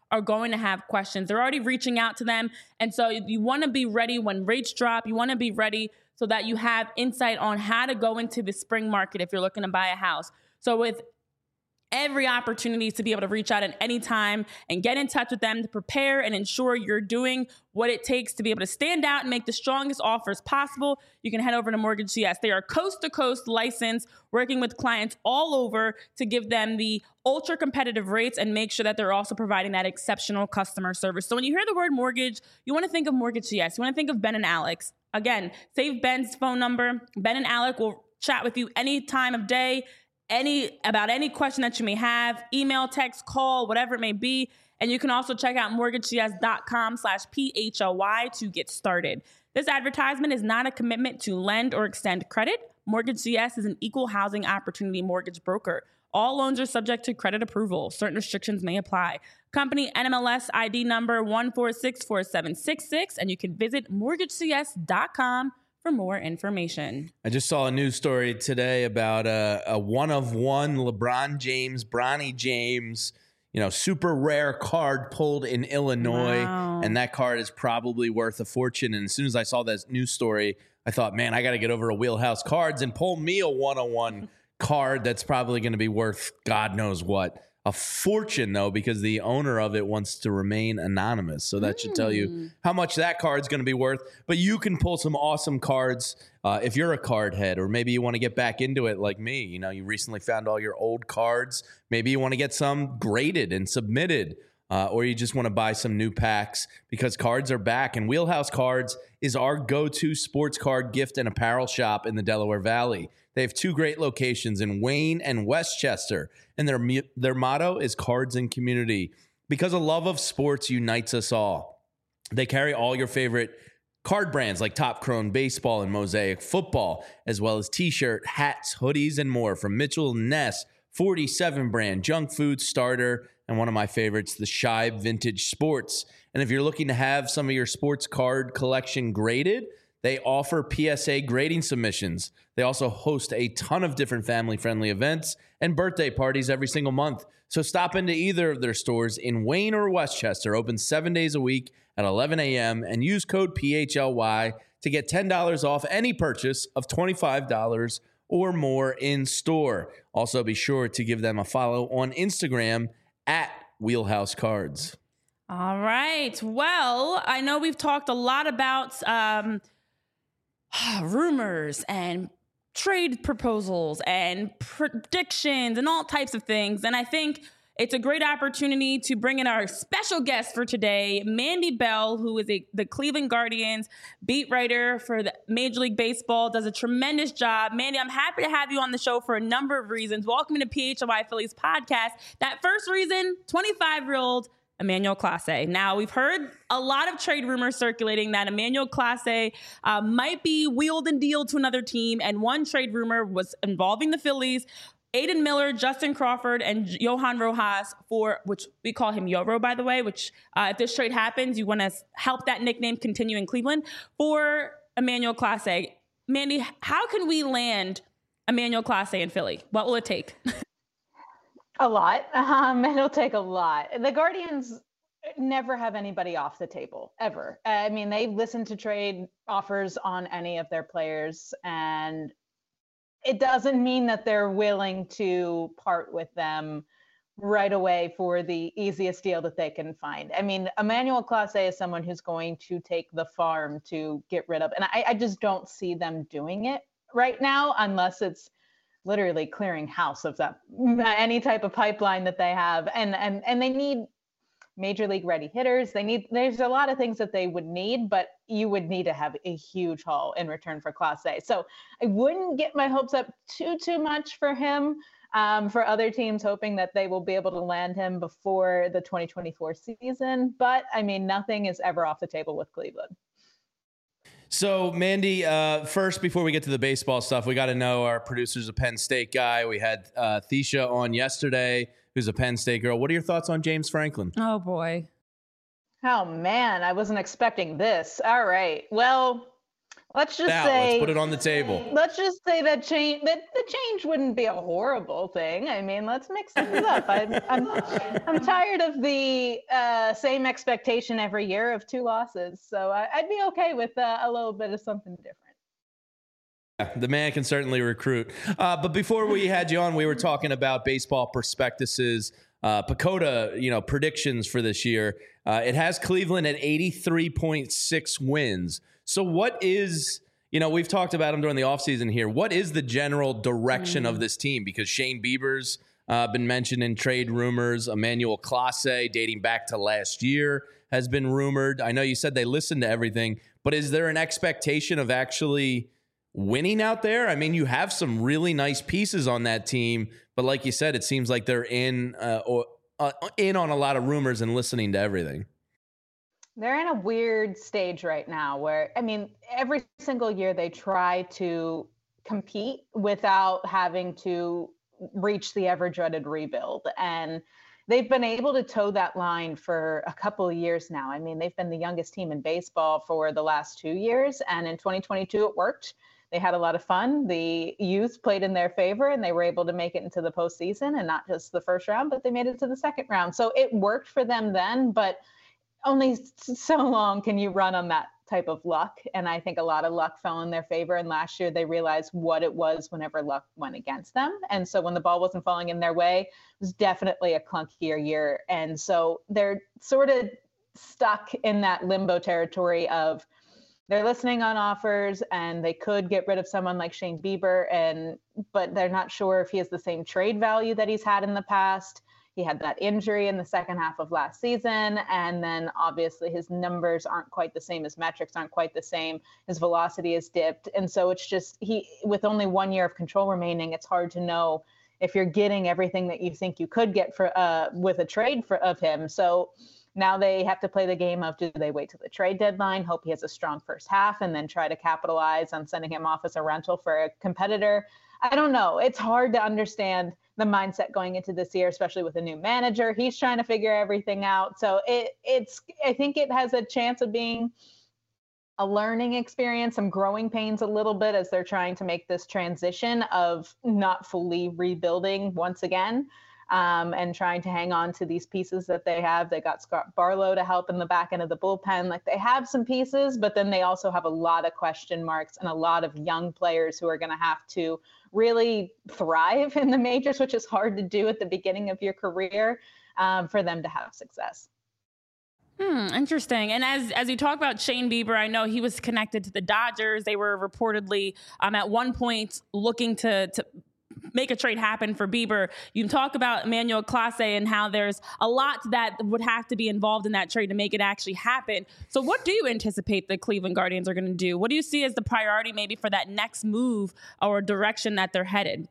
are going to have questions. They're already reaching out to them. And so you want to be ready when rates drop. You want to be ready so that you have insight on how to go into the spring market if you're looking to buy a house. So with every opportunity to be able to reach out at any time and get in touch with them to prepare and ensure you're doing what it takes to be able to stand out and make the strongest offers possible, you can head over to Mortgage C S. They are coast to coast licensed, working with clients all over to give them the ultra competitive rates and make sure that they're also providing that exceptional customer service. So when you hear the word mortgage, you want to think of Mortgage C S. You want to think of Ben and Alex. Again, save Ben's phone number. Ben and Alex will chat with you any time of day, any about any question that you may have, email, text, call, whatever it may be. And you can also check out mortgagecs.com slash P-H-L-Y to get started. This advertisement is not a commitment to lend or extend credit. Mortgage C S is an equal housing opportunity mortgage broker. All loans are subject to credit approval. Certain restrictions may apply. Company N M L S I D number one four six four seven six six, and you can visit mortgage c s dot com for more information. I just saw a news story today about a, a one of one LeBron James, Bronny James, you know, super rare card pulled in Illinois. Wow. And that card is probably worth a fortune. And as soon as I saw that news story, I thought, man, I got to get over to Wheelhouse Cards and pull me a one of one card that's probably going to be worth God knows what. A fortune, though, because the owner of it wants to remain anonymous. So that mm. should tell you how much that card's going to be worth. But you can pull some awesome cards uh, if you're a card head, or maybe you want to get back into it like me. You know, you recently found all your old cards. Maybe you want to get some graded and submitted, uh, or you just want to buy some new packs because cards are back. And Wheelhouse Cards is our go-to sports card gift and apparel shop in the Delaware Valley. They have two great locations in Wayne and Westchester, and their their motto is Cards and Community, because a love of sports unites us all. They carry all your favorite card brands like Top Crone Baseball and Mosaic Football, as well as T-shirt, hats, hoodies, and more from Mitchell and Ness, forty-seven brand, Junk Food Starter, and one of my favorites, the Shibe Vintage Sports. And if you're looking to have some of your sports card collection graded, they offer P S A grading submissions. They also host a ton of different family-friendly events and birthday parties every single month. So stop into either of their stores in Wayne or Westchester, open seven days a week at eleven a.m., and use code P H L Y to get ten dollars off any purchase of twenty-five dollars or more in store. Also, be sure to give them a follow on Instagram at Wheelhouse Cards. All right. Well, I know we've talked a lot about um, rumors and trade proposals and predictions and all types of things. And I think it's a great opportunity to bring in our special guest for today, Mandy Bell, who is a, the Cleveland Guardians beat writer for the Major League Baseball, does a tremendous job. Mandy, I'm happy to have you on the show for a number of reasons. Welcome to P H L Y Phillies podcast. That first reason, twenty-five-year-old Emmanuel Clase. Now, we've heard a lot of trade rumors circulating that Emmanuel Clase uh, might be wheeled and dealed to another team, and one trade rumor was involving the Phillies, Aiden Miller, Justin Crawford, and Johan Rojas, for which we call him Yoro, by the way, which uh, if this trade happens, you want to help that nickname continue in Cleveland, for Emmanuel Clase. Mandy, how can we land Emmanuel Clase in Philly? What will it take? A lot. Um, it'll take a lot. The Guardians never have anybody off the table, ever. I mean, they listen to trade offers on any of their players, and it doesn't mean that they're willing to part with them right away for the easiest deal that they can find. I mean, Emmanuel Clase is someone who's going to take the farm to get rid of, and I, I just don't see them doing it right now unless it's literally clearing house of that any type of pipeline that they have, and and and they need major league ready hitters. They need there's a lot of things that they would need, but you would need to have a huge haul in return for Clase. So I wouldn't get my hopes up too too much for him. Um, for other teams, hoping that they will be able to land him before the twenty twenty-four season. But I mean, nothing is ever off the table with Cleveland. So, Mandy, uh, first, before we get to the baseball stuff, we got to know our producer's a Penn State guy. We had uh, Thesha on yesterday, who's a Penn State girl. What are your thoughts on James Franklin? Oh, boy. Oh, man, I wasn't expecting this. All right. Well, Let's just Now, say, let's put it on the table. Let's just say that change that the change wouldn't be a horrible thing. I mean, let's mix things up. I, I'm I'm tired of the uh, same expectation every year of two losses, so I, I'd be okay with uh, a little bit of something different. Yeah, the man can certainly recruit. Uh, but before we had you on, we were talking about baseball prospectuses, uh, Pacoda, you know, predictions for this year. Uh, it has Cleveland at eighty-three point six wins. So what is, you know, we've talked about him during the offseason here. What is the general direction mm. of this team? Because Shane Bieber's uh, been mentioned in trade rumors. Emmanuel Clase, dating back to last year, has been rumored. I know you said they listened to everything, but is there an expectation of actually winning out there? I mean, you have some really nice pieces on that team, but like you said, it seems like they're in uh, or uh, in on a lot of rumors and listening to everything. They're in a weird stage right now where, I mean, every single year they try to compete without having to reach the ever dreaded rebuild. And they've been able to toe that line for a couple of years now. I mean, they've been the youngest team in baseball for the last two years. And in twenty twenty-two, it worked. They had a lot of fun. The youth played in their favor, and they were able to make it into the postseason, and not just the first round, but they made it to the second round. So it worked for them then, but only so long can you run on that type of luck. And I think a lot of luck fell in their favor. And last year they realized what it was whenever luck went against them. And so when the ball wasn't falling in their way, it was definitely a clunkier year. And so they're sort of stuck in that limbo territory of they're listening on offers, and they could get rid of someone like Shane Bieber, and but they're not sure if he has the same trade value that he's had in the past. He had that injury in the second half of last season. And then obviously his numbers aren't quite the same. His metrics aren't quite the same. His velocity has dipped. And so it's just he with only one year of control remaining, it's hard to know if you're getting everything that you think you could get for uh, with a trade for, of him. So now they have to play the game of, do they wait till the trade deadline, hope he has a strong first half, and then try to capitalize on sending him off as a rental for a competitor? I don't know. It's hard to understand the mindset going into this year, especially with a new manager. He's trying to figure everything out. So it it's I think it has a chance of being a learning experience, some growing pains a little bit as they're trying to make this transition of not fully rebuilding once again. Um, and trying to hang on to these pieces that they have. They got Scott Barlow to help in the back end of the bullpen. Like, they have some pieces, but then they also have a lot of question marks and a lot of young players who are going to have to really thrive in the majors, which is hard to do at the beginning of your career, um, for them to have success. Hmm, interesting. And as as you talk about Shane Bieber, I know he was connected to the Dodgers. They were reportedly um, at one point looking to to make a trade happen for Bieber. You can talk about Emmanuel Clase and how there's a lot that would have to be involved in that trade to make it actually happen. So what do you anticipate the Cleveland Guardians are going to do? What do you see as the priority maybe for that next move or direction that they're headed?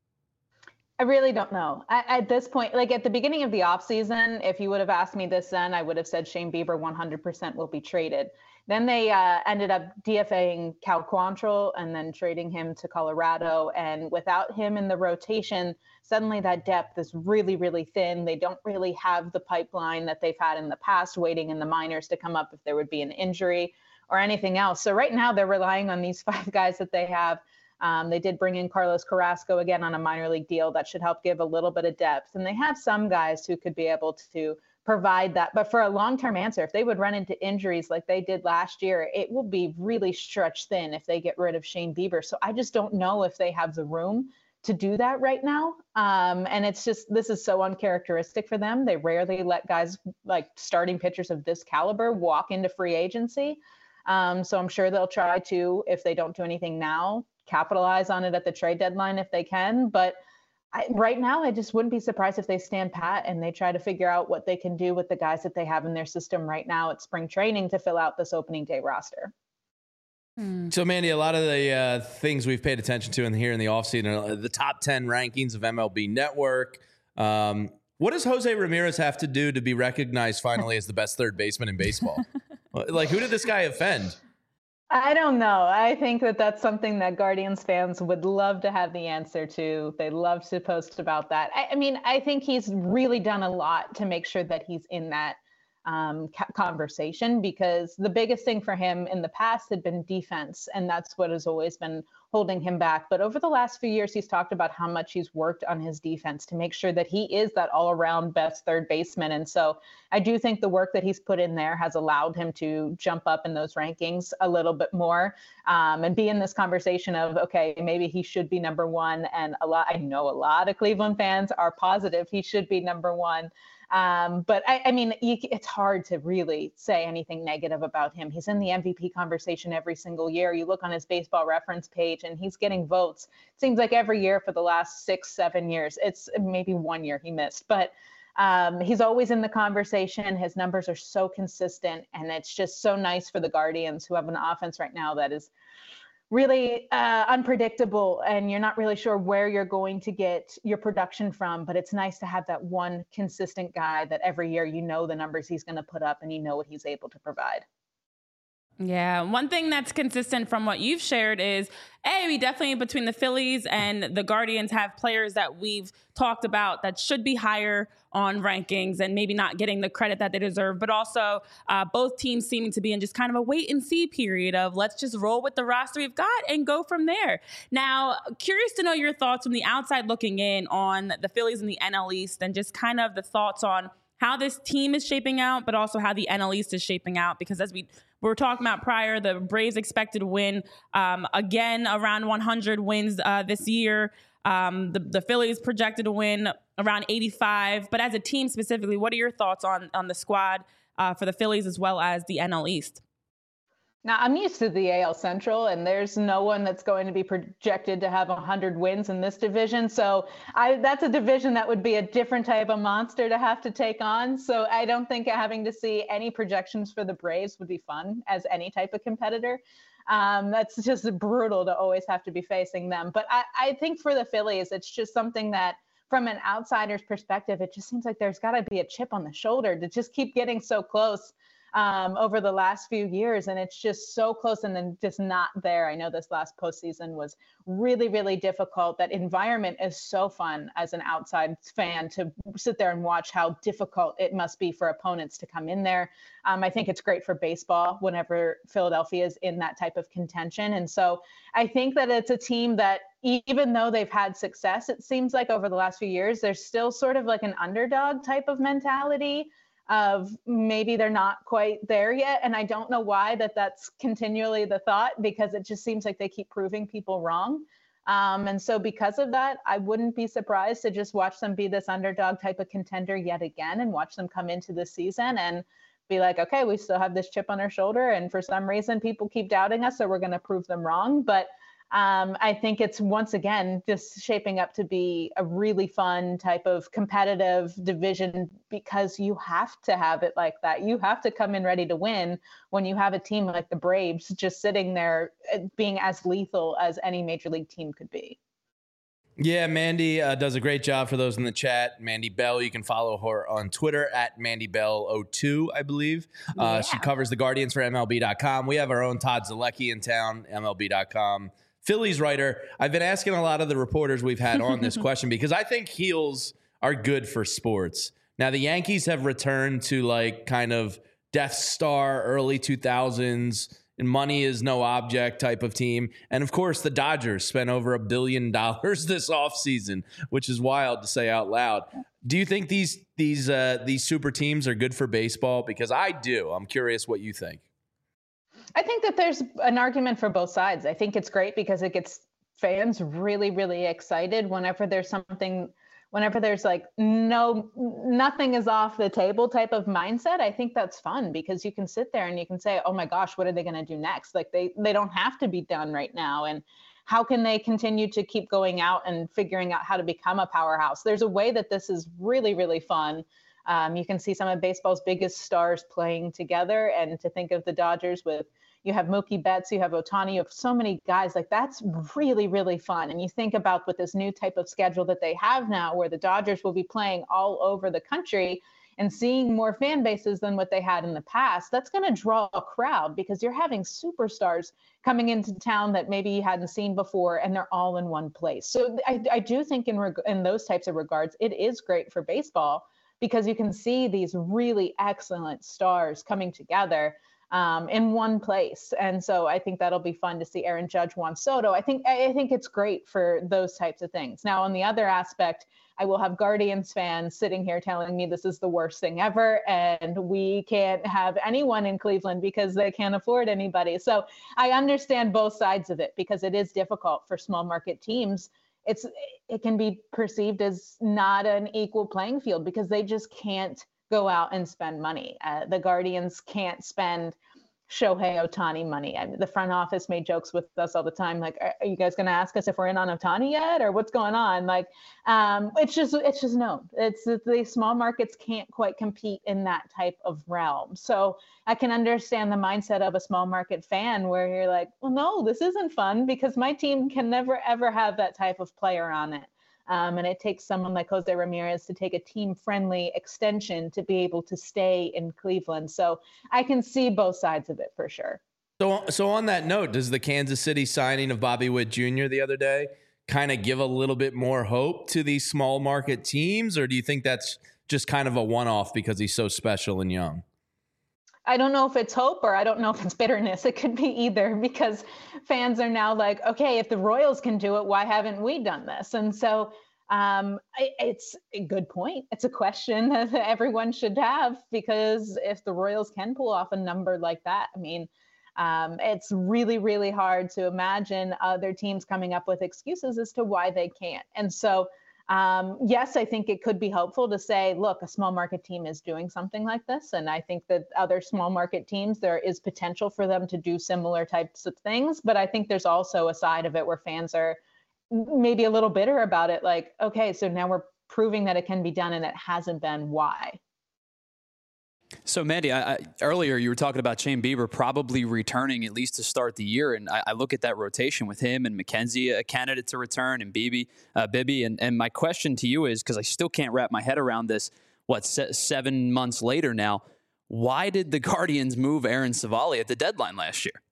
I really don't know. I, at this point, like at the beginning of the offseason, if you would have asked me this then, I would have said Shane Bieber one hundred percent will be traded. Then they uh, ended up DFAing Cal Quantrill and then trading him to Colorado. And without him in the rotation, suddenly that depth is really, really thin. They don't really have the pipeline that they've had in the past, waiting in the minors to come up if there would be an injury or anything else. So right now they're relying on these five guys that they have. Um, they did bring in Carlos Carrasco again on a minor league deal that should help give a little bit of depth. And they have some guys who could be able to provide that. But for a long-term answer, if they would run into injuries like they did last year, it will be really stretched thin if they get rid of Shane Bieber. So I just don't know if they have the room to do that right now. Um, and it's just, this is so uncharacteristic for them. They rarely let guys like starting pitchers of this caliber walk into free agency. Um, so I'm sure they'll try to, if they don't do anything now, capitalize on it at the trade deadline if they can. But I, right now, I just wouldn't be surprised if they stand pat and they try to figure out what they can do with the guys that they have in their system right now at spring training to fill out this opening day roster. So, Mandy, a lot of the uh, things we've paid attention to in here in the offseason are the top ten rankings of M L B Network. Um, what does Jose Ramirez have to do to be recognized finally as the best third baseman in baseball? Like, who did this guy offend? I don't know. I think that that's something that Guardians fans would love to have the answer to. They love to post about that. I, I mean, I think he's really done a lot to make sure that he's in that um, conversation, because the biggest thing for him in the past had been defense, and that's what has always been holding him back. But over the last few years, he's talked about how much he's worked on his defense to make sure that he is that all-around best third baseman. And so I do think the work that he's put in there has allowed him to jump up in those rankings a little bit more, um, and be in this conversation of, okay, maybe he should be number one. And a lot, I know a lot of Cleveland fans are positive he should be number one. Um, but I, I mean, you, it's hard to really say anything negative about him. He's in the M V P conversation every single year. You look on his baseball reference page and he's getting votes. It seems like every year for the last six, seven years. It's maybe one year he missed, but um, he's always in the conversation. His numbers are so consistent, and it's just so nice for the Guardians, who have an offense right now that is really uh, unpredictable, and you're not really sure where you're going to get your production from. But it's nice to have that one consistent guy that every year you know the numbers he's going to put up and you know what he's able to provide. Yeah, one thing that's consistent from what you've shared is, A, we definitely, between the Phillies and the Guardians, have players that we've talked about that should be higher on rankings and maybe not getting the credit that they deserve. But also uh, both teams seeming to be in just kind of a wait and see period of, let's just roll with the roster we've got and go from there. Now, curious to know your thoughts from the outside looking in on the Phillies and the N L East, and just kind of the thoughts on how this team is shaping out, but also how the N L East is shaping out. Because as we we were talking about prior, the Braves expected to win um, again around one hundred wins uh, this year. Um, the, the Phillies projected to win around eighty-five. But as a team specifically, what are your thoughts on, on the squad uh, for the Phillies as well as the N L East? Now, I'm used to the A L Central, and there's no one that's going to be projected to have one hundred wins in this division. So I, that's a division that would be a different type of monster to have to take on. So I don't think having to see any projections for the Braves would be fun as any type of competitor. Um, that's just brutal to always have to be facing them. But I, I think for the Phillies, it's just something that, from an outsider's perspective, it just seems like there's got to be a chip on the shoulder to just keep getting so close um, over the last few years. And it's just so close and then just not there. I know this last postseason was really, really difficult. That environment is so fun as an outside fan to sit there and watch how difficult it must be for opponents to come in there. Um, I think it's great for baseball whenever Philadelphia is in that type of contention. And so I think that it's a team that, even though they've had success, it seems like over the last few years, there's still sort of like an underdog type of mentality of maybe they're not quite there yet. And I don't know why that that's continually the thought, because it just seems like they keep proving people wrong. Um, and so because of that, I wouldn't be surprised to just watch them be this underdog type of contender yet again, and watch them come into the season and be like, okay, we still have this chip on our shoulder, and for some reason people keep doubting us, so we're going to prove them wrong. But Um, I think it's once again just shaping up to be a really fun type of competitive division, because you have to have it like that. You have to come in ready to win when you have a team like the Braves just sitting there being as lethal as any major league team could be. Yeah, Mandy uh, does a great job for those in the chat. Mandy Bell, you can follow her on Twitter at Mandy Bell oh two, I believe. Uh, Yeah. She covers the Guardians for M L B dot com. We have our own Todd Zalecki in town, M L B dot com. Phillies writer. I've been asking a lot of the reporters we've had on this question because I think heels are good for sports. Now, the Yankees have returned to like kind of Death Star early two thousands and money is no object type of team. And of course, the Dodgers spent over a billion dollars this offseason, which is wild to say out loud. Do you think these these uh, these super teams are good for baseball? Because I do. I'm curious what you think. I think that there's an argument for both sides. I think it's great because it gets fans really, really excited whenever there's something, whenever there's like no, nothing is off the table type of mindset. I think that's fun because you can sit there and you can say, oh my gosh, what are they going to do next? Like they, they don't have to be done right now. And how can they continue to keep going out and figuring out how to become a powerhouse? There's a way that this is really, really fun. Um, you can see some of baseball's biggest stars playing together, and to think of the Dodgers with, you have Mookie Betts, you have Ohtani, you have so many guys, like that's really, really fun. And you think about with this new type of schedule that they have now, where the Dodgers will be playing all over the country and seeing more fan bases than what they had in the past, that's going to draw a crowd because you're having superstars coming into town that maybe you hadn't seen before, and they're all in one place. So I, I do think in, reg- in those types of regards, it is great for baseball. because you can see these really excellent stars coming together um, in one place. And so I think that'll be fun to see Aaron Judge, Juan Soto. I think I think it's great for those types of things. Now, on the other aspect, I will have Guardians fans sitting here telling me this is the worst thing ever, and we can't have anyone in Cleveland because they can't afford anybody. So I understand both sides of it, because it is difficult for small market teams. It's it can be perceived as not an equal playing field because they just can't go out and spend money. Uh, the Guardians can't spend Shohei Ohtani money. I mean, the front office made jokes with us all the time, like, "Are, are you guys going to ask us if we're in on Ohtani yet, or what's going on?" Like, um, it's just it's just known. It's the small markets can't quite compete in that type of realm. So I can understand the mindset of a small market fan where you're like, well, no, this isn't fun because my team can never ever have that type of player on it. Um, and it takes someone like Jose Ramirez to take a team-friendly extension to be able to stay in Cleveland. So I can see both sides of it for sure. So, so on that note, does the Kansas City signing of Bobby Witt Junior the other day kind of give a little bit more hope to these small market teams, or do you think that's just kind of a one-off because he's so special and young? I don't know if it's hope or I don't know if it's bitterness. It could be either, because fans are now like, okay, if the Royals can do it, why haven't we done this? And so um, it's a good point. It's a question that everyone should have, because if the Royals can pull off a number like that, I mean, um, it's really, really hard to imagine other teams coming up with excuses as to why they can't. And so Um, yes, I think it could be helpful to say, look, a small market team is doing something like this. And I think that other small market teams, there is potential for them to do similar types of things. But I think there's also a side of it where fans are maybe a little bitter about it. Like, okay, so now we're proving that it can be done and it hasn't been. Why? So, Mandy, I, I, earlier you were talking about Shane Bieber probably returning at least to start the year, and I, I look at that rotation with him and McKenzie, a candidate to return, and Bibby, uh, Bibby, and, and my question to you is, because I still can't wrap my head around this, what, se- seven months later now, why did the Guardians move Aaron Savali at the deadline last year?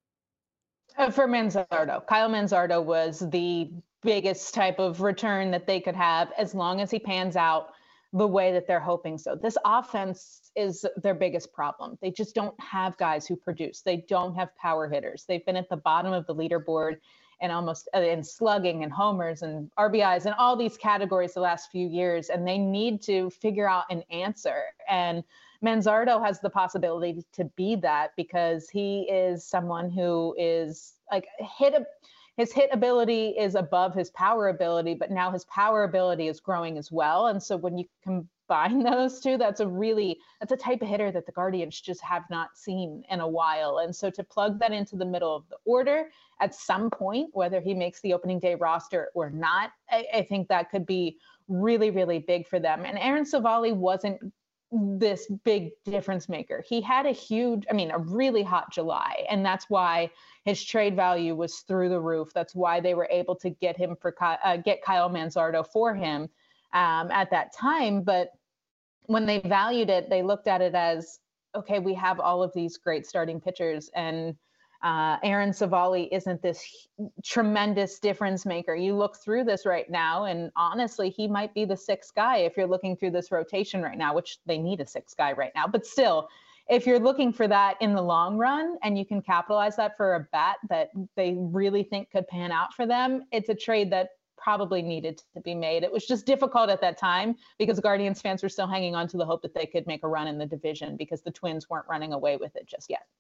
Uh, for Manzardo. Kyle Manzardo was the biggest type of return that they could have as long as he pans out the way that they're hoping so. This offense is their biggest problem. They just don't have guys who produce. They don't have power hitters. They've been at the bottom of the leaderboard and almost uh, in slugging and homers and R B Is and all these categories the last few years. And they need to figure out an answer. And Manzardo has the possibility to be that, because he is someone who is like hit a, his hit ability is above his power ability, but now his power ability is growing as well. And so when you combine those two, that's a really, that's a type of hitter that the Guardians just have not seen in a while. And so to plug that into the middle of the order at some point, whether he makes the opening day roster or not, I, I think that could be really, really big for them. And Aaron Savali wasn't this big difference maker. He had a huge, I mean, a really hot July, and that's why his trade value was through the roof. That's why they were able to get him for uh, get Kyle Manzardo for him um, at that time. But when they valued it, they looked at it as, okay, we have all of these great starting pitchers, and uh, Aaron Savali isn't this tremendous difference maker. You look through this right now, and honestly, he might be the sixth guy if you're looking through this rotation right now, which they need a sixth guy right now. But still, if you're looking for that in the long run and you can capitalize that for a bat that they really think could pan out for them, it's a trade that probably needed to be made. It was just difficult at that time because Guardians fans were still hanging on to the hope that they could make a run in the division because the Twins weren't running away with it just yet.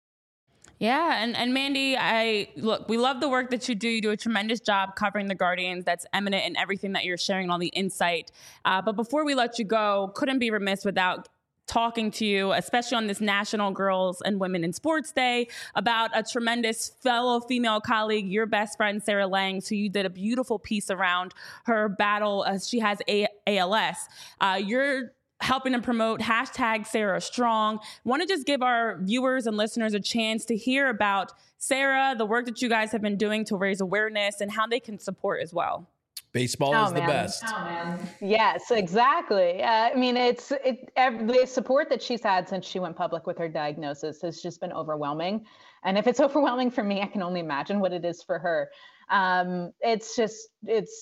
Yeah, and, and Mandy, I look, we love the work that you do. You do a tremendous job covering the Guardians. That's eminent in everything that you're sharing, all the insight. Uh, but before we let you go, couldn't be remiss without talking to you, especially on this National Girls and Women in Sports Day, about a tremendous fellow female colleague, your best friend, Sarah Langs, who you did a beautiful piece around her battle as she has a- ALS. Uh, you're helping to promote hashtag Sarah Strong. Want to just give our viewers and listeners a chance to hear about Sarah, the work that you guys have been doing to raise awareness, and how they can support as well. Baseball oh, is the man. best. Oh, man. Yes, exactly. Uh, I mean, it's it, every, the support that she's had since she went public with her diagnosis has just been overwhelming. And if it's overwhelming for me, I can only imagine what it is for her. Um, it's just, it's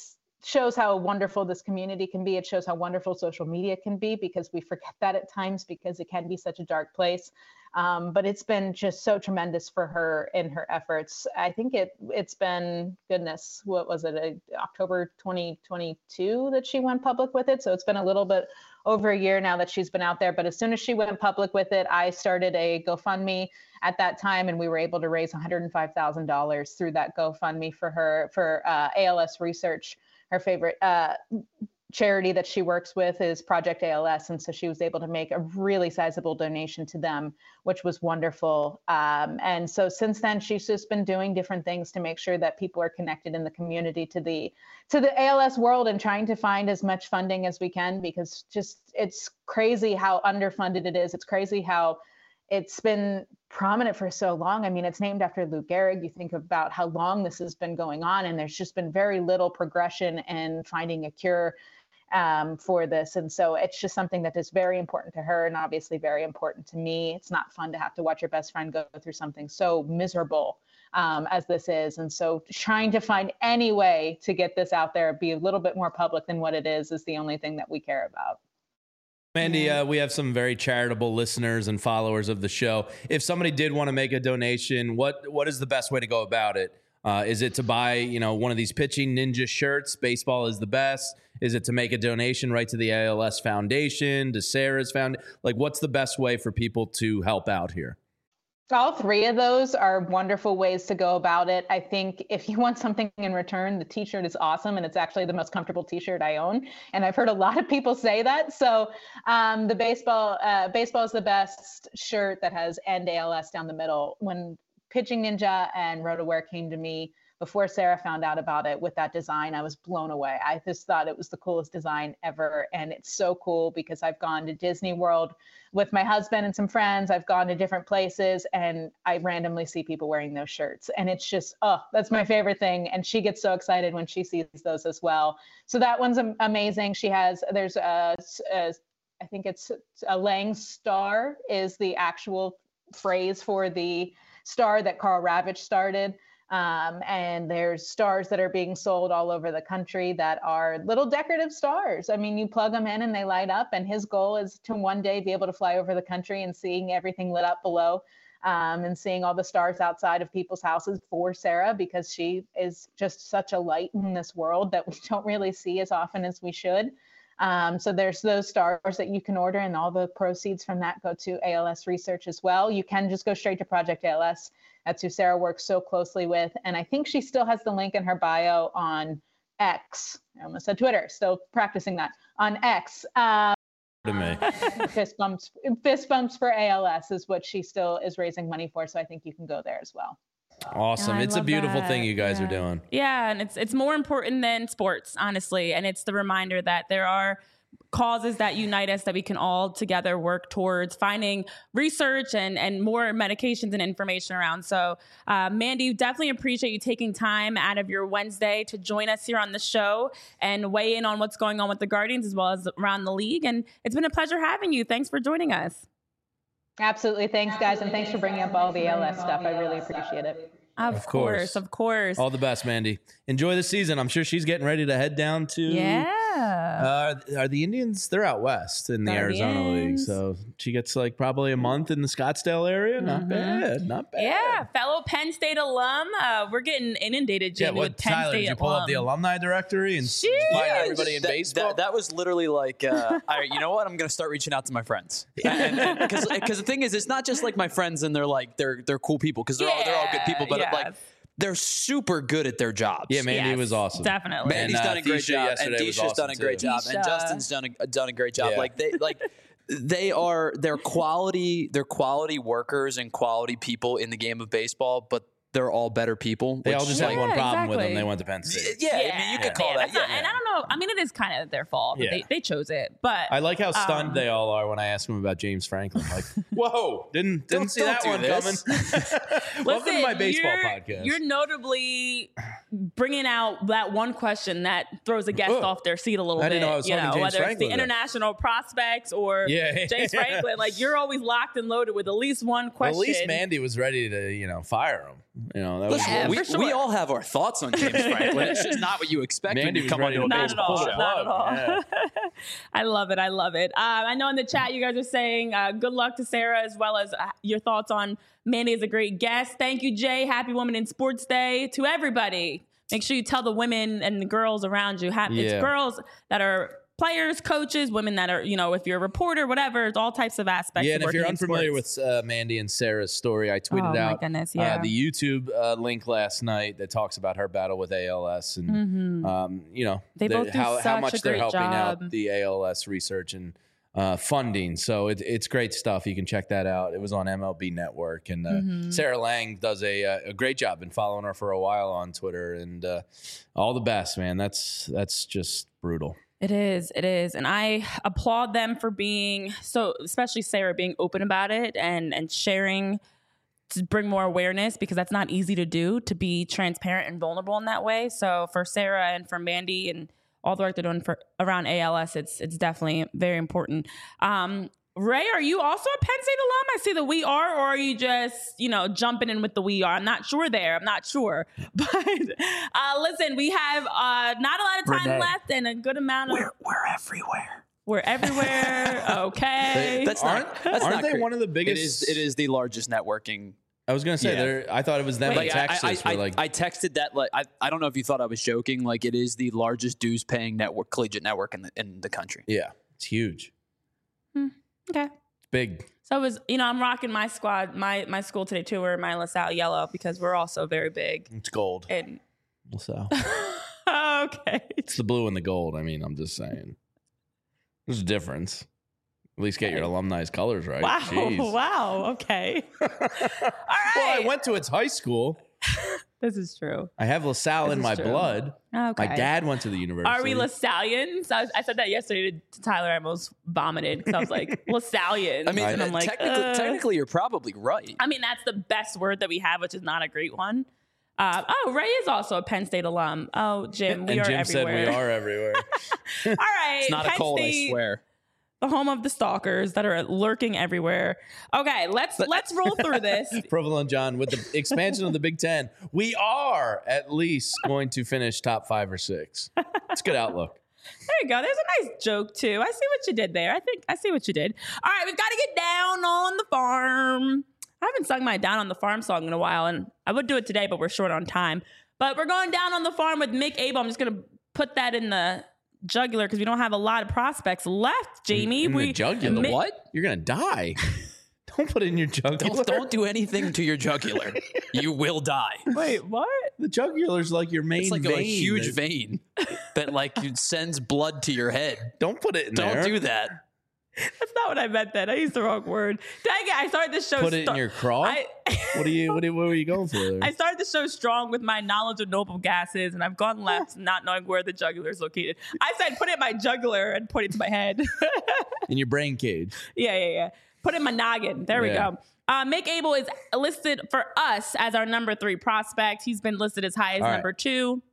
shows how wonderful this community can be. It shows how wonderful social media can be, because we forget that at times because it can be such a dark place. Um, but it's been just so tremendous for her in her efforts. I think it, it's been, goodness, what was it, uh, October twenty twenty-two that she went public with it. So it's been a little bit over a year now that she's been out there. But as soon as she went public with it, I started a GoFundMe at that time, and we were able to raise one hundred five thousand dollars through that GoFundMe for her, for uh, A L S Research. Her favorite uh, charity that she works with is Project A L S. And so she was able to make a really sizable donation to them, which was wonderful. Um, and so since then, she's just been doing different things to make sure that people are connected in the community to the to the A L S world, and trying to find as much funding as we can, because just it's crazy how underfunded it is. It's crazy how it's been prominent for so long. I mean, it's named after Lou Gehrig. You think about how long this has been going on, and there's just been very little progression in finding a cure um, for this. And so it's just something that is very important to her, and obviously very important to me. It's not fun to have to watch your best friend go through something so miserable um, as this is. And so trying to find any way to get this out there, be a little bit more public than what it is, is the only thing that we care about. Mandy, uh, we have some very charitable listeners and followers of the show. If somebody did want to make a donation, what what is the best way to go about it? Uh, is it to buy, you know, one of these Pitching Ninja shirts? Baseball is the best. Is it to make a donation right to the A L S Foundation, to Sarah's Foundation? Like, what's the best way for people to help out here? All three of those are wonderful ways to go about it. I think if you want something in return, the t-shirt is awesome, and it's actually the most comfortable t-shirt I own. And I've heard a lot of people say that. So um, the baseball, uh, baseball is the best shirt that has "End A L S" down the middle. When Pitching Ninja and RotoWear came to me before Sarah found out about it with that design, I was blown away. I just thought it was the coolest design ever. And it's so cool because I've gone to Disney World with my husband and some friends. I've gone to different places, and I randomly see people wearing those shirts. And it's just, oh, that's my favorite thing. And she gets so excited when she sees those as well. So that one's amazing. She has, there's a, a I think it's a Lang star is the actual phrase for the star that Carl Ravitch started. Um, and there's stars that are being sold all over the country that are little decorative stars. I mean, you plug them in and they light up, and his goal is to one day be able to fly over the country and seeing everything lit up below, um, and seeing all the stars outside of people's houses for Sarah, because she is just such a light in this world that we don't really see as often as we should. Um, so there's those stars that you can order, and all the proceeds from that go to A L S Research as well. You can just go straight to Project A L S. That's who Sarah works so closely with. And I think she still has the link in her bio on X. I almost said Twitter, still practicing that, on X. Um, to me. fist bumps, fist bumps for A L S is what she still is raising money for. So I think you can go there as well. Awesome. I It's a love beautiful that. thing you guys Yeah. are doing. Yeah, and it's it's more important than sports, honestly. And it's the reminder that there are causes that unite us, that we can all together work towards finding research and and more medications and information around. So, uh, Mandy, definitely appreciate you taking time out of your Wednesday to join us here on the show and weigh in on what's going on with the Guardians as well as around the league. And it's been a pleasure having you. Thanks for joining us. Absolutely. Thanks, guys. And thanks for bringing up all the A L S stuff. I really appreciate it. Of, Of course, course. of course. All the best, Mandy. Enjoy the season. I'm sure she's getting ready to head down to. yeah. Uh, are the Indians? They're out west in the Arizona League, Guardians. so she gets like probably a month in the Scottsdale area. Not Mhm. bad, not bad. Yeah, fellow Penn State alum. Uh, we're getting inundated, Yeah, Jamie, what, with Penn Tyler? State Did you pull alum. up the alumni directory and Sheesh. find Yeah, everybody in that, baseball? That, that was literally like, uh, all right, you know what? I'm going to start reaching out to my friends. Because because the thing is, it's not just like my friends and they're like, they're they're cool people, because they're, all, they're all good people, but Yeah, like, yes. they're super good at their jobs. yeah, Mandy Yes, was awesome. Definitely. Mandy's And, uh, done a great Theisha job, and yesterday was Deisha's done a awesome, great too. job, and Deisha. Justin's done a done a great job. Yeah. Like they like they are they're quality they're quality workers and quality people in the game of baseball, but they're all better people. They which, all just Yeah, had one problem with them. exactly. They went to Penn State. yeah, I mean, you could call man, that. that's not- Yeah, And I don't know. I mean, it is kind of their fault. That Yeah. they, they chose it, but I like how stunned Um, they all are when I ask them about James Franklin. Like, whoa, didn't didn't Don't- see don't that do one this. coming. Welcome to my baseball you're, podcast. You're notably bringing out that one question that throws a guest Oh. off their seat a little I bit. didn't know I was you talking know, James whether it's Franklin the there. international prospects or Yeah. James Franklin, like you're always locked and loaded with at least one Well, question. at least Mandy was ready to, you know, fire him. You know, that was Listen, Yeah, we, for sure. we all have our thoughts on James Franklin. It's just not what you expect when Mandy you was come ready onto a to Not at baseball all. show. Not at all. Yeah. I love it. I love it. Um, I know in the chat you guys are saying uh, good luck to Sarah, as well as uh, your thoughts on Mandy as a great guest. Thank you, Jay. Happy Women in Sports Day to everybody. Make sure you tell the women and the girls around you. Ha- Yeah. It's girls that are players, coaches, women that are, you know, if you're a reporter, whatever, it's all types of aspects. Yeah, of and if you're working in unfamiliar sports. with uh, Mandy and Sarah's story, I tweeted Oh, my out goodness, yeah. uh, the YouTube uh, link last night that talks about her battle with A L S and Mhm. um, you know They the- both do how, how such much a they're great helping job. out the A L S research and uh, funding. So it, it's great stuff. You can check that out. It was on M L B Network, and uh, Mhm. Sarah Lang does a a great job. Been following her for a while on Twitter, and uh, all the best, man. That's that's just brutal. It is. It is. And I applaud them for being so, especially Sarah, being open about it and, and sharing to bring more awareness, because that's not easy to do, to be transparent and vulnerable in that way. So for Sarah and for Mandy and all the work they're doing for around A L S, it's it's definitely very important. Um, Ray, are you also a Penn State alum? I see the we are, or are you just, you know, jumping in with the we are? I'm not sure there. I'm not sure. But uh, listen, we have uh, not a lot of time Renee. left and a good amount of. We're, we're everywhere. We're everywhere. Okay. That's aren't not. That's aren't not they cra- one of the It biggest? is. It is the largest networking. I was gonna say Yeah. they're I thought it was them. Wait, in Like, I, Texas I, I, were like I texted that. Like, I, I don't know if you thought I was joking. Like, it is the largest dues paying network, collegiate network in the in the country. yeah, it's huge, Okay. big. So it was, you know, I'm rocking my squad, my my school today too. We're my LaSalle yellow because we're also very big. It's gold. And So okay. it's the blue and the gold. I mean, I'm just saying. There's a difference. At least get your Okay. alumni's colors right. Wow. Jeez. Wow. Okay. All right. Well, I went to its high school. This is true. I have LaSalle This in is my true. blood. Okay. My dad went to the university. Are we LaSallians? I, was, I said that yesterday to, to Tyler. I almost vomited because I was like, LaSallians. I mean, and I'm like, technically, uh. technically, you're probably right. I mean, that's the best word that we have, which is not a great one. Uh, oh, Ray is also a Penn State alum. Oh, Jim, we and are Jim everywhere. said we are everywhere. All right. It's not Penn a cold, State, I swear. the home of the stalkers that are lurking everywhere. Okay, let's let's roll through this. Provolone John, with the expansion of the Big Ten, we are at least going to finish top five or six. It's a good outlook. There you go. There's a nice joke too. I see what you did there. I think I see what you did. All right, we've got to get down on the farm. I haven't sung my Down on the Farm song in a while, and I would do it today, but we're short on time. But we're going down on the farm with Mick Abel. I'm just going to put that in the jugular because we don't have a lot of prospects left, Jamie. In we, the jugular. The Mi- what? You're gonna die. Don't put it in your jugular. Don't, don't do anything to your jugular. You will die. Wait, what? The jugular's like your main It's like vein. a huge that- vein that like it sends blood to your head. Don't put it in Don't there. do that. That's not what I meant then. I used the wrong word. Dang it. I started this show. Put it in sto- your craw. I, What are you? What, are, what were you going for there? I started the show strong with my knowledge of noble gases, and I've gone left not knowing where the jugular is located. I said put it in my jugular and put it to my head. in your brain cage. yeah, yeah, yeah. Put it in my noggin. There Yeah. we go. Uh, Mick Abel is listed for us as our number three prospect. He's been listed as high as All right. number two.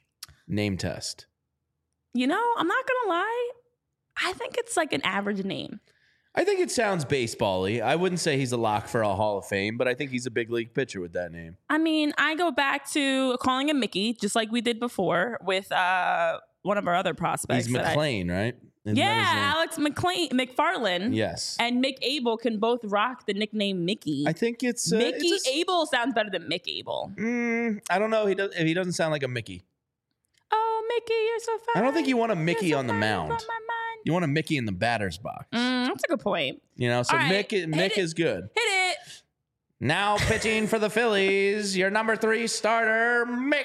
Name test. You know, I'm not going to lie. I think it's like an average name. I think it sounds baseball-y. I wouldn't say he's a lock for a Hall of Fame, but I think he's a big league pitcher with that name. I mean, I go back to calling him Mickey, just like we did before with uh, one of our other prospects. He's that I- McLean, right? Isn't yeah, that his name? Alex McLean, McFarland. Yes. And Mick Abel can both rock the nickname Mickey. I think it's uh, Mickey it's a s- Abel sounds better than Mick Abel. Mm, I don't know. He does. He doesn't sound like a Mickey. Oh, Mickey, you're so fine. I don't think you want a Mickey You're so on the fine, mound. it's on my mind. You want a Mickey in the batter's box. Mm, that's a good point. You know, so All right, Mick hit Mick it. is good. Hit it. Now pitching for the Phillies, your number three starter, Mick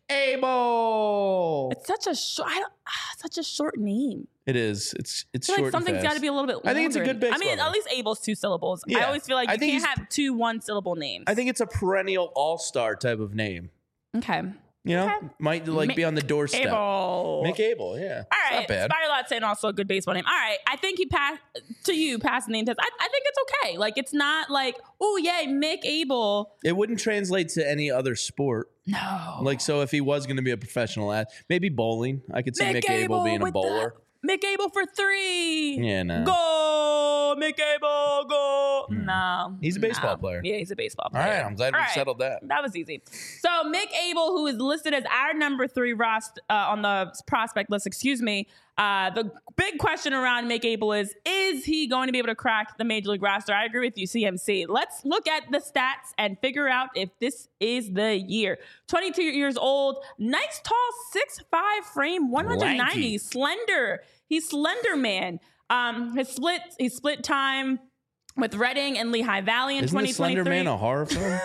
Abel. It's such a short, I don't, ah, such a short name. It is. It's it's I feel short like something's and got fast. to be a little bit longer. I think it's a good I mean, baseball at least Abel's two syllables. I Yeah. always feel like I you think can't he's- have two one syllable names. I think it's a perennial all-star type of name. Okay. You know, Okay. might like Mick be on the doorstep. Abel. Mick Abel, yeah. All right, Not bad. Spider Lot saying also a good baseball name. All right, I think he passed to you, passed the name test. I, I think it's okay. Like it's not like, oh yay, Mick Abel. It wouldn't translate to any other sport. No, Like, so if he was going to be a professional at maybe bowling, I could see Mick, Abel being a with bowler. the- Mick Abel for three. Yeah, no. Go Abel, Mick Abel, go. Hmm. No. He's a baseball no. player. Yeah, he's a baseball All player. right, I'm glad All we right. settled that. That was easy. So Mick Abel, who is listed as our number three roster uh, on the prospect list, excuse me. Uh, the big question around Mick Abel is, is he going to be able to crack the Major League roster? I agree with you, C M C. Let's look at the stats and figure out if this is the year. twenty-two years old, nice tall six five frame, one ninety, Lanky. slender. He's slender man. Um, his split, his split time with Reading and Lehigh Valley in Isn't twenty the Slender twenty-three. Man a horror film?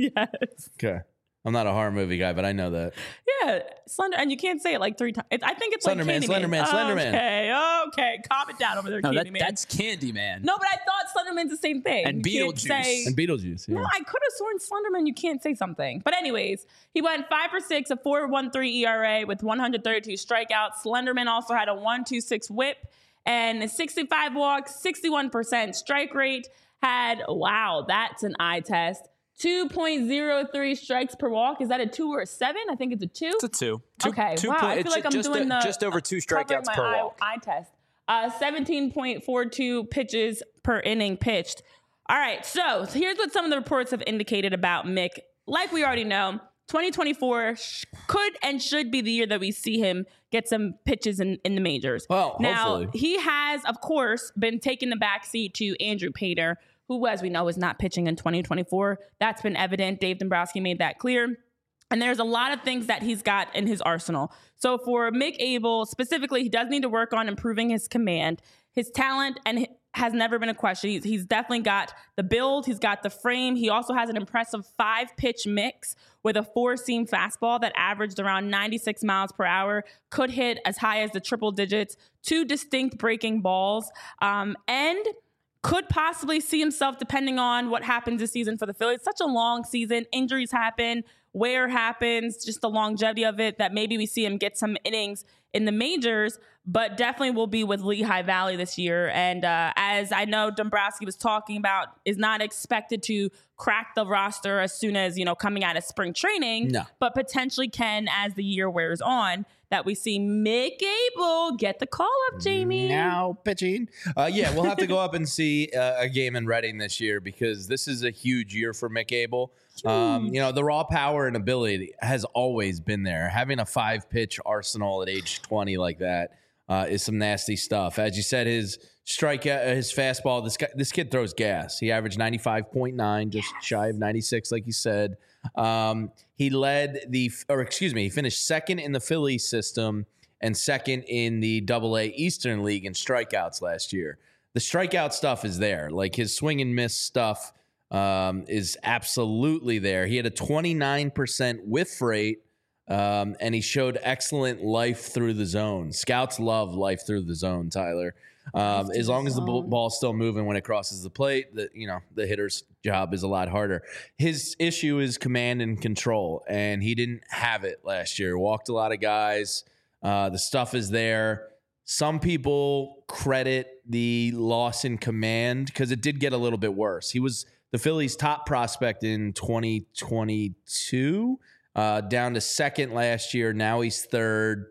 Yes. Okay. I'm not a horror movie guy, but I know that. Yeah, Slender, and you can't say it like three times. I think it's Slender like Man, Candyman. Slender Man, Slender Man. Okay, okay, calm it down over there, No, that, Candyman. that's Candyman. No, but I thought Slenderman's the same thing. And You can't Beetlejuice. say- And Beetlejuice. Yeah. No, I could have sworn Slenderman. You can't say something. But anyways, he went five for six, a four point one three E R A with one hundred thirty-two strikeouts. Slenderman also had a one point two six whip and sixty-five walks, sixty-one percent strike rate. Had, wow, that's an eye test. two point oh three strikes per walk. Is that a two or a seven? I think it's a two. It's a two. two Okay, two wow, point- I feel it's like I'm just doing a- the- just over two Covering strikeouts my per eye, walk. eye test. Uh, seventeen point four two pitches per inning pitched. All right, so here's what some of the reports have indicated about Mick. Like we already know, twenty twenty-four sh- could and should be the year that we see him get some pitches in, in the majors. Well, now, hopefully. he has, of course, been taking the backseat to Andrew Painter, who, as we know, is not pitching in twenty twenty-four. That's been evident. Dave Dombrowski made that clear. And there's a lot of things that he's got in his arsenal. So for Mick Abel, specifically, he does need to work on improving his command. His talent and hi- has never been a question. He's, he's definitely got the build. He's got the frame. He also has an impressive five-pitch mix with a four-seam fastball that averaged around ninety-six miles per hour, could hit as high as the triple digits, two distinct breaking balls, um, and could possibly see himself, depending on what happens this season for the Phillies. Such a long season. Injuries happen. Wear happens. Just the longevity of it, that maybe we see him get some innings in the majors, but definitely will be with Lehigh Valley this year. And uh, as I know Dombrowski was talking about, is not expected to crack the roster as soon as, you know, coming out of spring training, No. but potentially can as the year wears on, that we see Mick Abel get the call up, Jamie. Now pitching. Uh, yeah, we'll have to go up and see uh, a game in Reading this year because this is a huge year for Mick Abel. Um, you know, the raw power and ability has always been there. Having a five pitch arsenal at age twenty like that uh, is some nasty stuff. As you said, his strikeout, his fastball, this guy, this kid throws gas. He averaged ninety-five point nine, just shy of ninety-six, like you said. Um, he led the, or excuse me, he finished second in the Philly system and second in the Double A Eastern League in strikeouts last year. The strikeout stuff is there. Like his swing and miss stuff um, is absolutely there. He had a twenty-nine percent whiff rate, um, and he showed excellent life through the zone. Scouts love life through the zone, Tyler. Um, as long as the ball, ball's still moving when it crosses the plate, the you know the hitter's job is a lot harder. His issue is command and control, and he didn't have it last year. Walked a lot of guys. Uh, the stuff is there. Some people credit the loss in command because it did get a little bit worse. He was the Phillies' top prospect in twenty twenty-two, uh, down to second last year. Now he's third.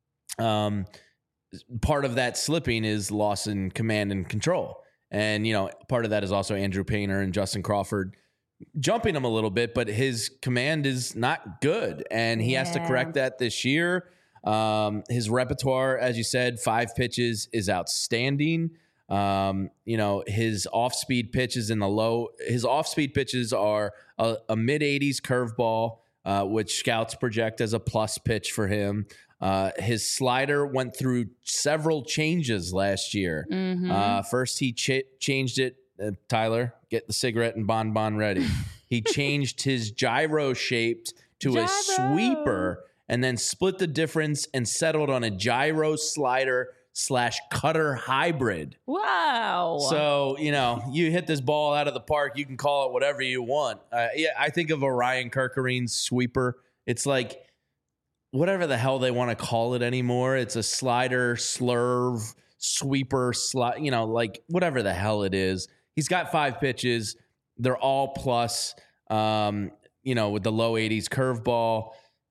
Um, part of that slipping is loss in command and control. And, you know, part of that is also Andrew Painter and Justin Crawford jumping him a little bit, but his command is not good. And he has to Yeah. correct that this year. Um, his repertoire, as you said, five pitches is outstanding. Um, you know, his off-speed pitches in the low, his off-speed pitches are a, a mid-eighties curveball, uh, which scouts project as a plus pitch for him. Uh, his slider went through several changes last year. Mhm. Uh, first, he ch- changed it. Uh, Tyler, get the cigarette and bonbon ready. He changed his gyro shaped to a Gyro. sweeper, and then split the difference and settled on a gyro slider slash cutter hybrid. Wow. So, you know, you hit this ball out of the park, you can call it whatever you want. Uh, yeah, I think of Orion Kirkerine's sweeper. It's like whatever the hell they want to call it anymore. It's a slider, slurve, sweeper, sli- you know, like whatever the hell it is. He's got five pitches. They're all plus, um, you know, with the low eighties curveball.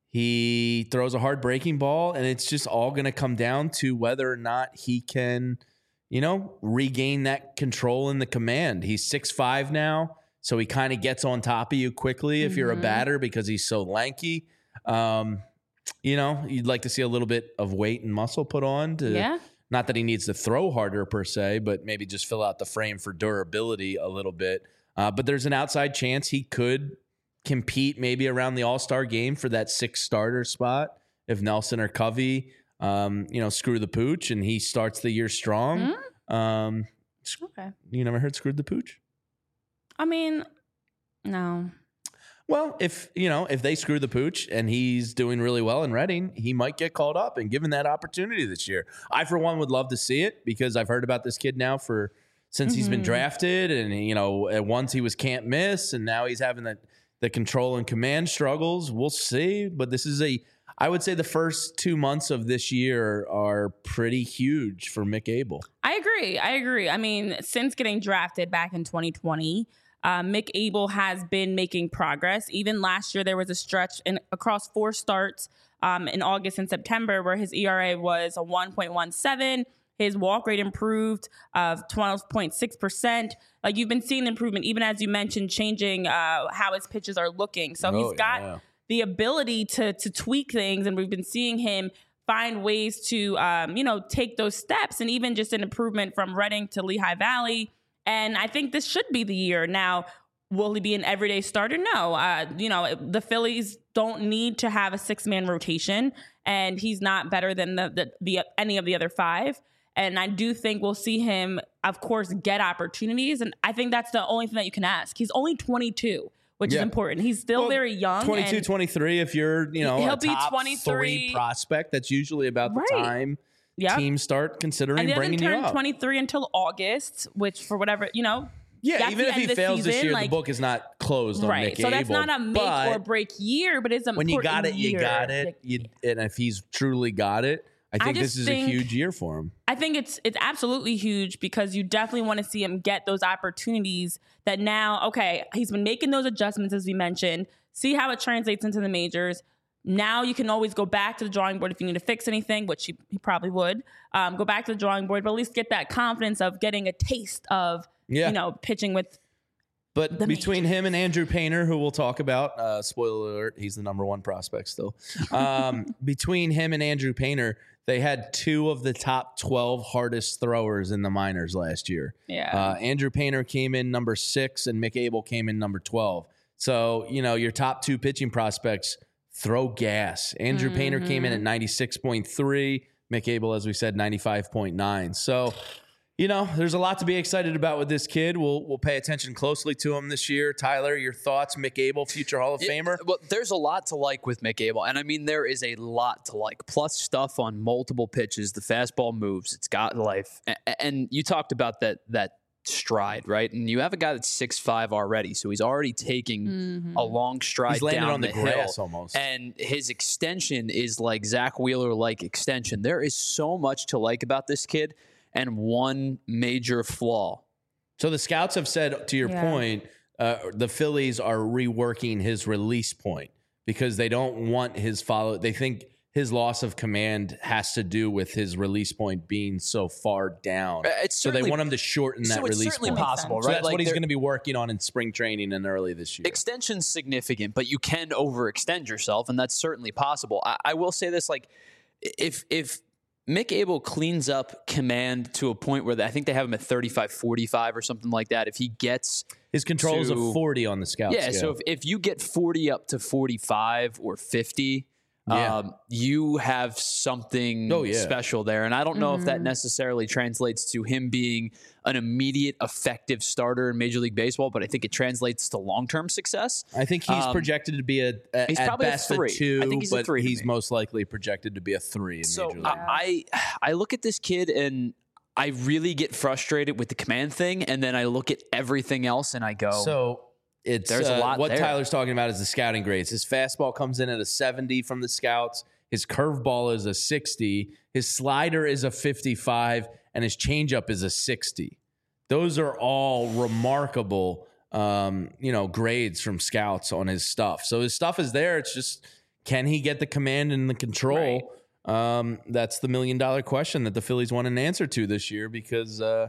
He throws a hard breaking ball, and it's just all going to come down to whether or not he can you know, regain that control in the command. He's six five now, so he kind of gets on top of you quickly if mm-hmm. you're a batter because he's so lanky. Um, you know, you'd like to see a little bit of weight and muscle put on to, yeah. not that he needs to throw harder per se, but maybe just fill out the frame for durability a little bit. Uh, but there's an outside chance he could compete maybe around the All-Star game for that sixth starter spot if Nelson or Covey, um, you know, screw the pooch and he starts the year strong. Mm-hmm. Um, okay. You never heard screwed the pooch? I mean, no. Well, if, you know, if they screw the pooch and he's doing really well in Reading, he might get called up and given that opportunity this year. I, for one, would love to see it because I've heard about this kid now for since mm-hmm. he's been drafted. And, you know, at once he was can't miss and now he's having the, the control and command struggles. We'll see. But this is a, I would say the first two months of this year are pretty huge for Mick Abel. I agree. I agree. I mean, since getting drafted back in twenty twenty, Uh, Mick Abel has been making progress. Even last year, there was a stretch in, across four starts um, in August and September where his E R A was a one point one seven. His walk rate improved of twelve point six percent. Like you've been seeing improvement, even as you mentioned, changing uh, how his pitches are looking. So oh, he's got yeah. the ability to to tweak things, and we've been seeing him find ways to, um, you know, take those steps, and even just an improvement from Reading to Lehigh Valley. And I think this should be the year. Now, will he be an everyday starter? No. Uh, you know, the Phillies don't need to have a six-man rotation, and he's not better than the, the, the any of the other five. And I do think we'll see him, of course, get opportunities. And I think that's the only thing that you can ask. He's only twenty-two, which yeah. is important. He's still well, very young. twenty-two, twenty-three, if you're, you know, he'll a be top twenty-three three prospect, that's usually about the right. time Yep. teams start considering and he bringing you turn up. twenty-three until August, which for whatever, you know. Yeah, even if he fails season, this year, like, the book is not closed on right. Mick So Abel. that's not a make or break year, but it's an when important you got it, year. you got it. Like, You, and if he's truly got it, I think I this is think, a huge year for him. I think it's it's absolutely huge because you definitely want to see him get those opportunities that now, okay, he's been making those adjustments as we mentioned. See how it translates into the majors. Now you can always go back to the drawing board if you need to fix anything, which he, he probably would. Um, go back to the drawing board, but at least get that confidence of getting a taste of, yeah. you know, pitching with. But between majors. him and Andrew Painter, who we'll talk about, uh, spoiler alert, he's the number one prospect still. Um, between him and Andrew Painter, they had two of the top twelve hardest throwers in the minors last year. Yeah. Uh, Andrew Painter came in number six, and Mick Abel came in number twelve. So, you know, your top two pitching prospects throw gas. Andrew mm-hmm. Painter came in at ninety-six point three. Mick Abel, as we said, ninety-five point nine. So, you know, there's a lot to be excited about with this kid. We'll we'll pay attention closely to him this year. Tyler, your thoughts? Mick Abel, future Hall of yeah, Famer? Well, there's a lot to like with Mick Abel. And, I mean, there is a lot to like. Plus stuff on multiple pitches. The fastball moves. It's got life. And, and you talked about that that stride, right? And you have a guy that's six five already, so he's already taking mm-hmm. a long stride he's landing down on the, the grass hill. Almost. And his extension is like Zach Wheeler-like extension. There is so much to like about this kid, and one major flaw. So the scouts have said, to your yeah. point, uh, the Phillies are reworking his release point because they don't want his follow. They think his loss of command has to do with his release point being so far down. It's so they want him to shorten that so it's release certainly point. possible, right? So that's like what he's going to be working on in spring training and early this year. Extension's significant, but you can overextend yourself, and that's certainly possible. I, I will say this, like, if if Mick Abel cleans up command to a point where they, I think they have him at thirty-five forty-five or something like that, if he gets his control is to, a forty on the scout yeah, scale. so if, if you get forty up to forty-five or fifty, yeah. um, you have something oh, yeah. special there. And I don't know mm-hmm. if that necessarily translates to him being an immediate effective starter in Major League Baseball, but I think it translates to long-term success. I think he's um, projected to be a, a he's at probably best a, three. a two, I think he's but a three he's most likely projected to be a three in so Major League. I, I look at this kid and I really get frustrated with the command thing, and then I look at everything else and I go, so it's there's uh, a lot what there. Tyler's talking about is the scouting grades. His fastball comes in at a seventy from the scouts. His curveball is a sixty. His slider is a fifty-five, and his changeup is a sixty. Those are all remarkable, um, you know, grades from scouts on his stuff. So his stuff is there. It's just, can he get the command and the control? Um, that's the million dollar question that the Phillies want an answer to this year because uh,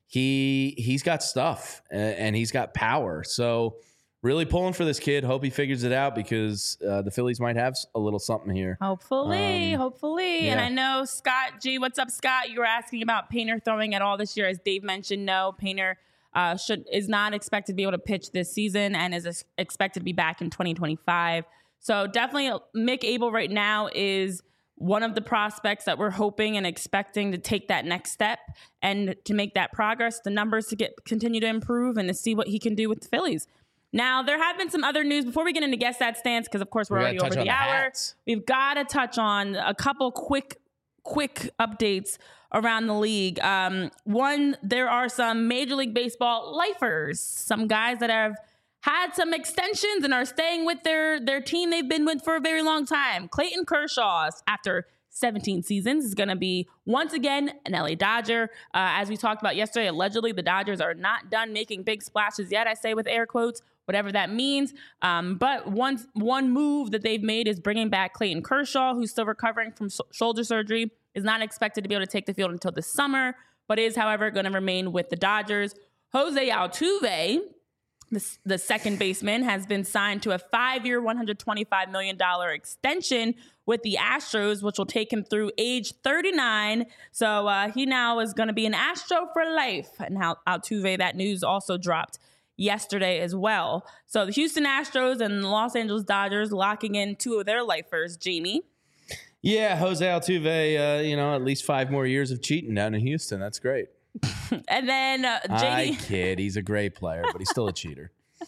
he he's got stuff and, and he's got power. So really pulling for this kid. Hope he figures it out because uh, the Phillies might have a little something here. Hopefully, Um, hopefully. yeah. And I know Scott G, what's up, Scott? You were asking about Painter throwing at all this year. As Dave mentioned, no, Painter uh, should is not expected to be able to pitch this season and is ex- expected to be back in twenty twenty-five. So definitely Mick Abel right now is one of the prospects that we're hoping and expecting to take that next step and to make that progress, the numbers to get continue to improve and to see what he can do with the Phillies. Now, there have been some other news before we get into Guess That Stance, because of course we're We already gotta over touch the on the hour. hats. We've got to touch on a couple quick, quick updates around the league. Um, one, there are some Major League Baseball lifers, some guys that have had some extensions and are staying with their, their team they've been with for a very long time. Clayton Kershaw, after seventeen seasons, is going to be once again an L A Dodger. Uh, as we talked about yesterday, allegedly the Dodgers are not done making big splashes yet, I say with air quotes, whatever that means. Um, but one, one move that they've made is bringing back Clayton Kershaw, who's still recovering from so- shoulder surgery, is not expected to be able to take the field until this summer, but is, however, going to remain with the Dodgers. Jose Altuve, The, the second baseman, has been signed to a five-year, one hundred twenty-five million dollars extension with the Astros, which will take him through age thirty-nine. So uh, he now is going to be an Astro for life. And how Altuve, that news also dropped yesterday as well. So the Houston Astros and the Los Angeles Dodgers locking in two of their lifers. Jamie? Yeah, Jose Altuve, uh, you know, at least five more years of cheating down in Houston. That's great. And then uh, I J D. kid. He's a great player, but he's still a cheater.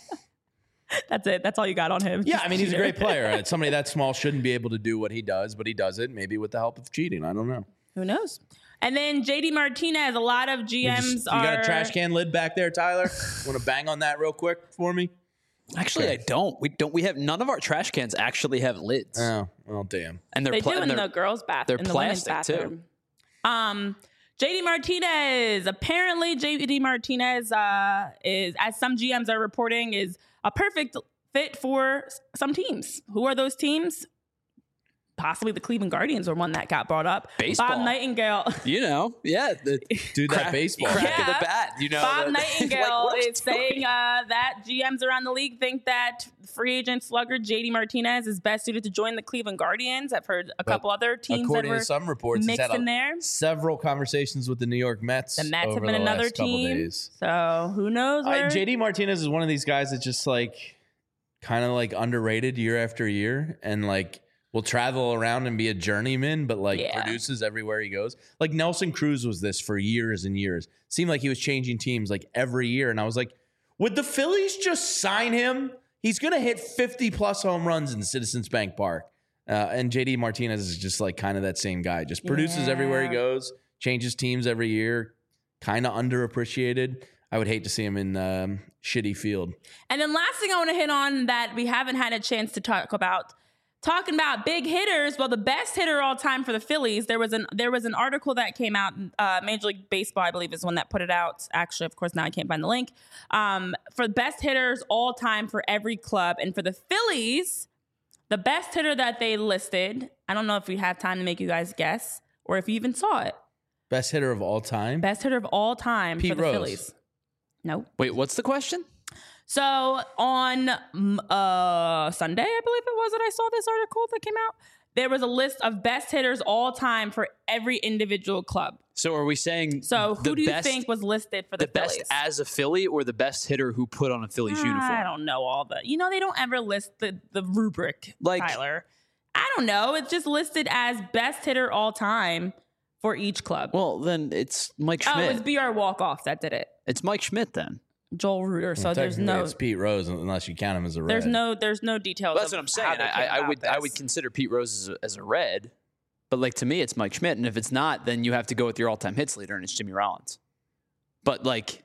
That's it. That's all you got on him. Yeah, I mean, he's a great player. Somebody that small shouldn't be able to do what he does, but he does it, maybe with the help of cheating. I don't know. Who knows? And then J D Martinez, a lot of G You, Ms just- you are... got a trash can lid back there, Tyler? Want to bang on that real quick for me? Actually, I don't. We don't. We have none of our trash cans actually have lids, Oh, well, damn. and they're They pla- do and in they're- the girls' bathroom. they're in the women's plastic, too. bathroom. Um, J D Martinez. Apparently, J D Martinez uh, is, as some G Ms are reporting, is a perfect fit for s- some teams. Who are those teams? Possibly the Cleveland Guardians, or one that got brought up. Baseball. Bob Nightingale. You know, yeah, the Dude, that crack- baseball. crack Yeah. of the bat. You know, Bob the- Nightingale like, what are you is doing? saying uh, that G Ms around the league think that free agent slugger J D Martinez is best suited to join the Cleveland Guardians. I've heard a But couple other teams that According were to some reports, he's mixed had a- in there. several conversations with the New York Mets. The Mets have over been the another last couple team. days. So who knows? I, Where? J D Martinez is one of these guys that just like kind of like underrated year after year and like will travel around and be a journeyman, but like Yeah. produces everywhere he goes. Like Nelson Cruz was this for years and years. Seemed like he was changing teams like every year. And I was like, would the Phillies just sign him? He's going to hit fifty plus home runs in Citizens Bank Park. Uh, and J D Martinez is just like kind of that same guy. Just produces everywhere he Yeah. goes, changes teams every year, kind of underappreciated. I would hate to see him in um, shitty field. And then last thing I want to hit on that we haven't had a chance to talk about, talking about big hitters. Well, the best hitter all time for the Phillies, there was an there was an article that came out. Uh, Major League Baseball, I believe, is the one that put it out. Actually, of course, now I can't find the link. Um, for the best hitters all time for every club, and for the Phillies, the best hitter that they listed. I don't know if we have time to make you guys guess, or if you even saw it. Best hitter of all time? Best hitter of all time Pete for the Rose. Phillies. Nope. Wait, what's the question? So on mm, uh, Sunday, I believe it was that I saw this article that came out. There was a list of best hitters all time for every individual club. So are we saying So the who do you best, think was listed for the, the best Phillies? as a Philly or the best hitter who put on a Phillies I uniform? don't know all the. You know, they don't ever list the the rubric, Like- Tyler. I don't know. It's just listed as best hitter all time for each club. Well, then it's Mike oh, Schmidt. it's B R Walk-Off that did it. it's Mike Schmidt then. Joel Reuter. So there's Technically, no It's Pete Rose unless you count him as a red. there's no there's no details. That's of what I'm how saying. they I, came I about would I this. would consider Pete Rose as a, as a red, but like to me, it's Mike Schmidt, and if it's not, then you have to go with your all-time hits leader, and it's Jimmy Rollins. But like,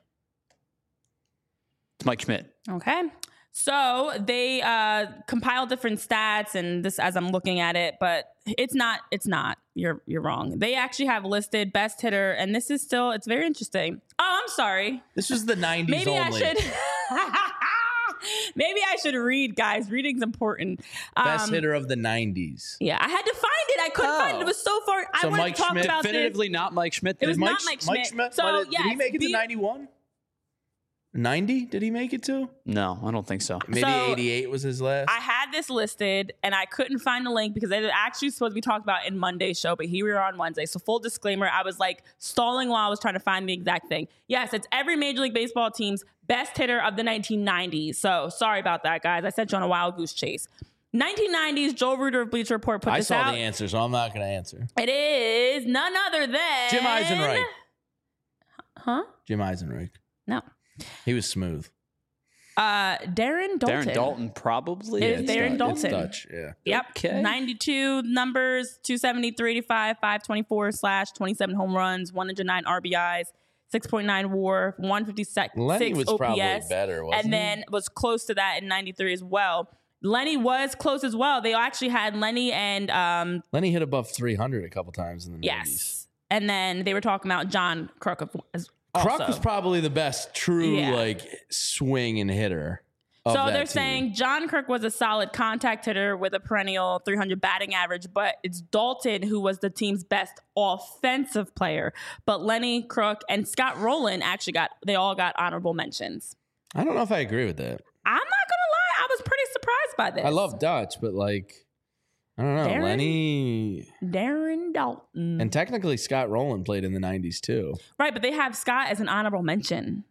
it's Mike Schmidt. Okay. So they uh, compile different stats, and this as I'm looking at it, but it's not. It's not. You're you're wrong. They actually have listed best hitter, and this is still. It's very interesting. Oh, I'm sorry. This was the nineties Maybe only. I should. Maybe I should read, guys. Reading's important. Best Um, hitter of the nineties. Yeah, I had to find it. I couldn't Oh. find it. It was so far. I So wanted Mike to talk Schmidt about this. Definitively not Mike Schmidt. It was then. not Mike Schmidt. So, did he yes, make it to be- ninety-one? ninety? Did he make it to? No, I don't think so. Maybe So, eighty-eight was his last. I had this listed and I couldn't find the link because it was actually supposed to be talked about in Monday's show, but here we are on Wednesday. So full disclaimer, I was like stalling while I was trying to find the exact thing. Yes, it's every Major League Baseball team's best hitter of the nineteen nineties. So sorry about that, guys. I sent you on a wild goose chase. nineteen nineties, Joel Reuter of Bleacher Report put I this saw out. the answer, so I'm not going to answer. It is none other than Jim Eisenreich. Huh? Jim Eisenreich. No. He was smooth. Uh, Darren Dalton. Darren Dalton probably. It is it's Darren Dutch- it's Dalton. Dutch, yeah. Yep. Okay. ninety-two numbers, two seventy, three eighty-five, five twenty-four slash twenty-seven home runs, one hundred nine R B Is, six point nine WAR, one fifty-six Lenny was O P S, probably better, wasn't and then was close to that in ninety-three as well. Lenny was close as well. They actually had Lenny and um he? Lenny hit above three hundred a couple times in the yes, nineties. and then they were talking about John Kruk as Kruk also. was probably the best true Yeah. like swing and hitter. of So that they're team. saying John Kruk was a solid contact hitter with a perennial three hundred batting average, but it's Dalton who was the team's best offensive player. But Lenny, Kruk, and Scott Rowland actually got, they all got honorable mentions. I don't know if I agree with that. I'm not going to lie. I was pretty surprised by this. I love Dutch, but like, I don't know. Darren? Lenny Darren Dalton. and technically Scott Rowland played in the nineties too. right, but they have Scott as an honorable mention.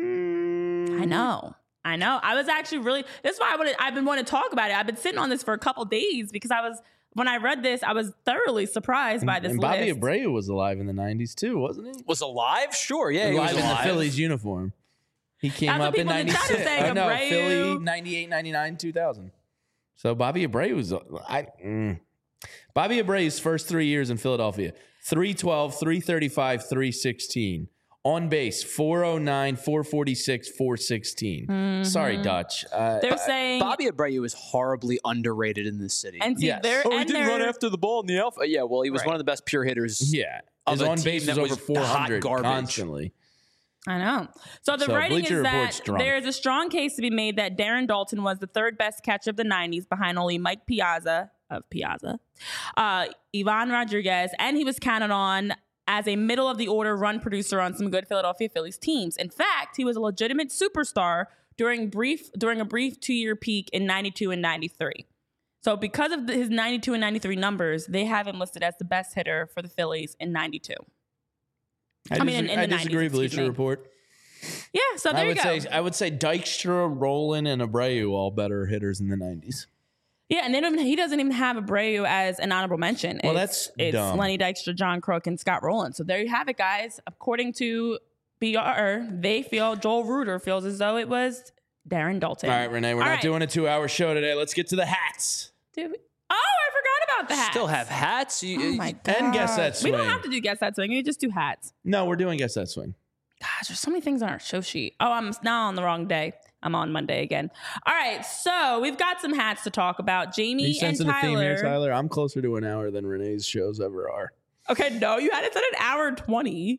I know. I know. I was actually really, that's why I wanted, I've been wanting to talk about it. I've been sitting on this for a couple days because I was, when I read this, I was thoroughly surprised by this And Bobby list. Abreu was alive in the nineties too, wasn't he? Was alive? Sure. Yeah, he was alive in the alive. Phillies uniform. He came That's what up in people in the chat are ninety-six. saying, I know, Abreu. Philly ninety-eight, ninety-nine, two thousand. So Bobby Abreu was I mm. Bobby Abreu's first three years in Philadelphia. three twelve, three thirty-five, three sixteen. On base, four oh nine, four forty-six, four sixteen. Sorry, Dutch. Uh, They're saying, Bobby Abreu is horribly underrated in this city. and see, Yes. they're, oh, he and did they're, run after the ball in the alpha. Yeah, well, he was Right. one of the best pure hitters. yeah. Of His a on team base was that over was four hundred hot garbage. constantly. I know. So the So writing Bleacher is Report's that drunk. there is a strong case to be made that Darren Dalton was the third best catcher of the nineties behind only Mike Piazza of Piazza, uh, Ivan Rodriguez, and he was counted on as a middle of the order run producer on some good Philadelphia Phillies teams. In fact, he was a legitimate superstar during brief during a brief two-year peak in ninety-two and ninety-three. So because of the, his ninety-two and ninety-three numbers, they have him listed as the best hitter for the Phillies in ninety-two. I, I mean, dis- in- in I the disagree, nineties, excuse Bleacher me. Report. Yeah, so there I you would go. say I would say Dykstra, Rowland, and Abreu all better hitters in the nineties. Yeah, and they don't even, he doesn't even have Abreu as an honorable mention. Well, it's, that's it's dumb. Lenny Dykstra, John Kruk, and Scott Rowland. So there you have it, guys. According to B R, they feel Joel Reuter feels as though it was Darren Dalton. All right, Renee, we're All not right. doing a two-hour show today. Let's get to the hats. Did we- oh, I forgot about the hats. Still have hats. You, Oh my god. And guess that We swing. don't have to do guess that swing. You just do hats. No, we're doing guess that swing. Gosh, there's so many things on our show sheet. Oh, I'm now on the wrong day. I'm on Monday again. All right, so we've got some hats to talk about. Are Jamie you and sensing a theme here, Tyler. Tyler? I'm closer to an hour than Renee's shows ever are. Okay, no, you had it at an hour and twenty.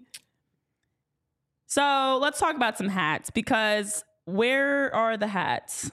So let's talk about some hats because where are the hats?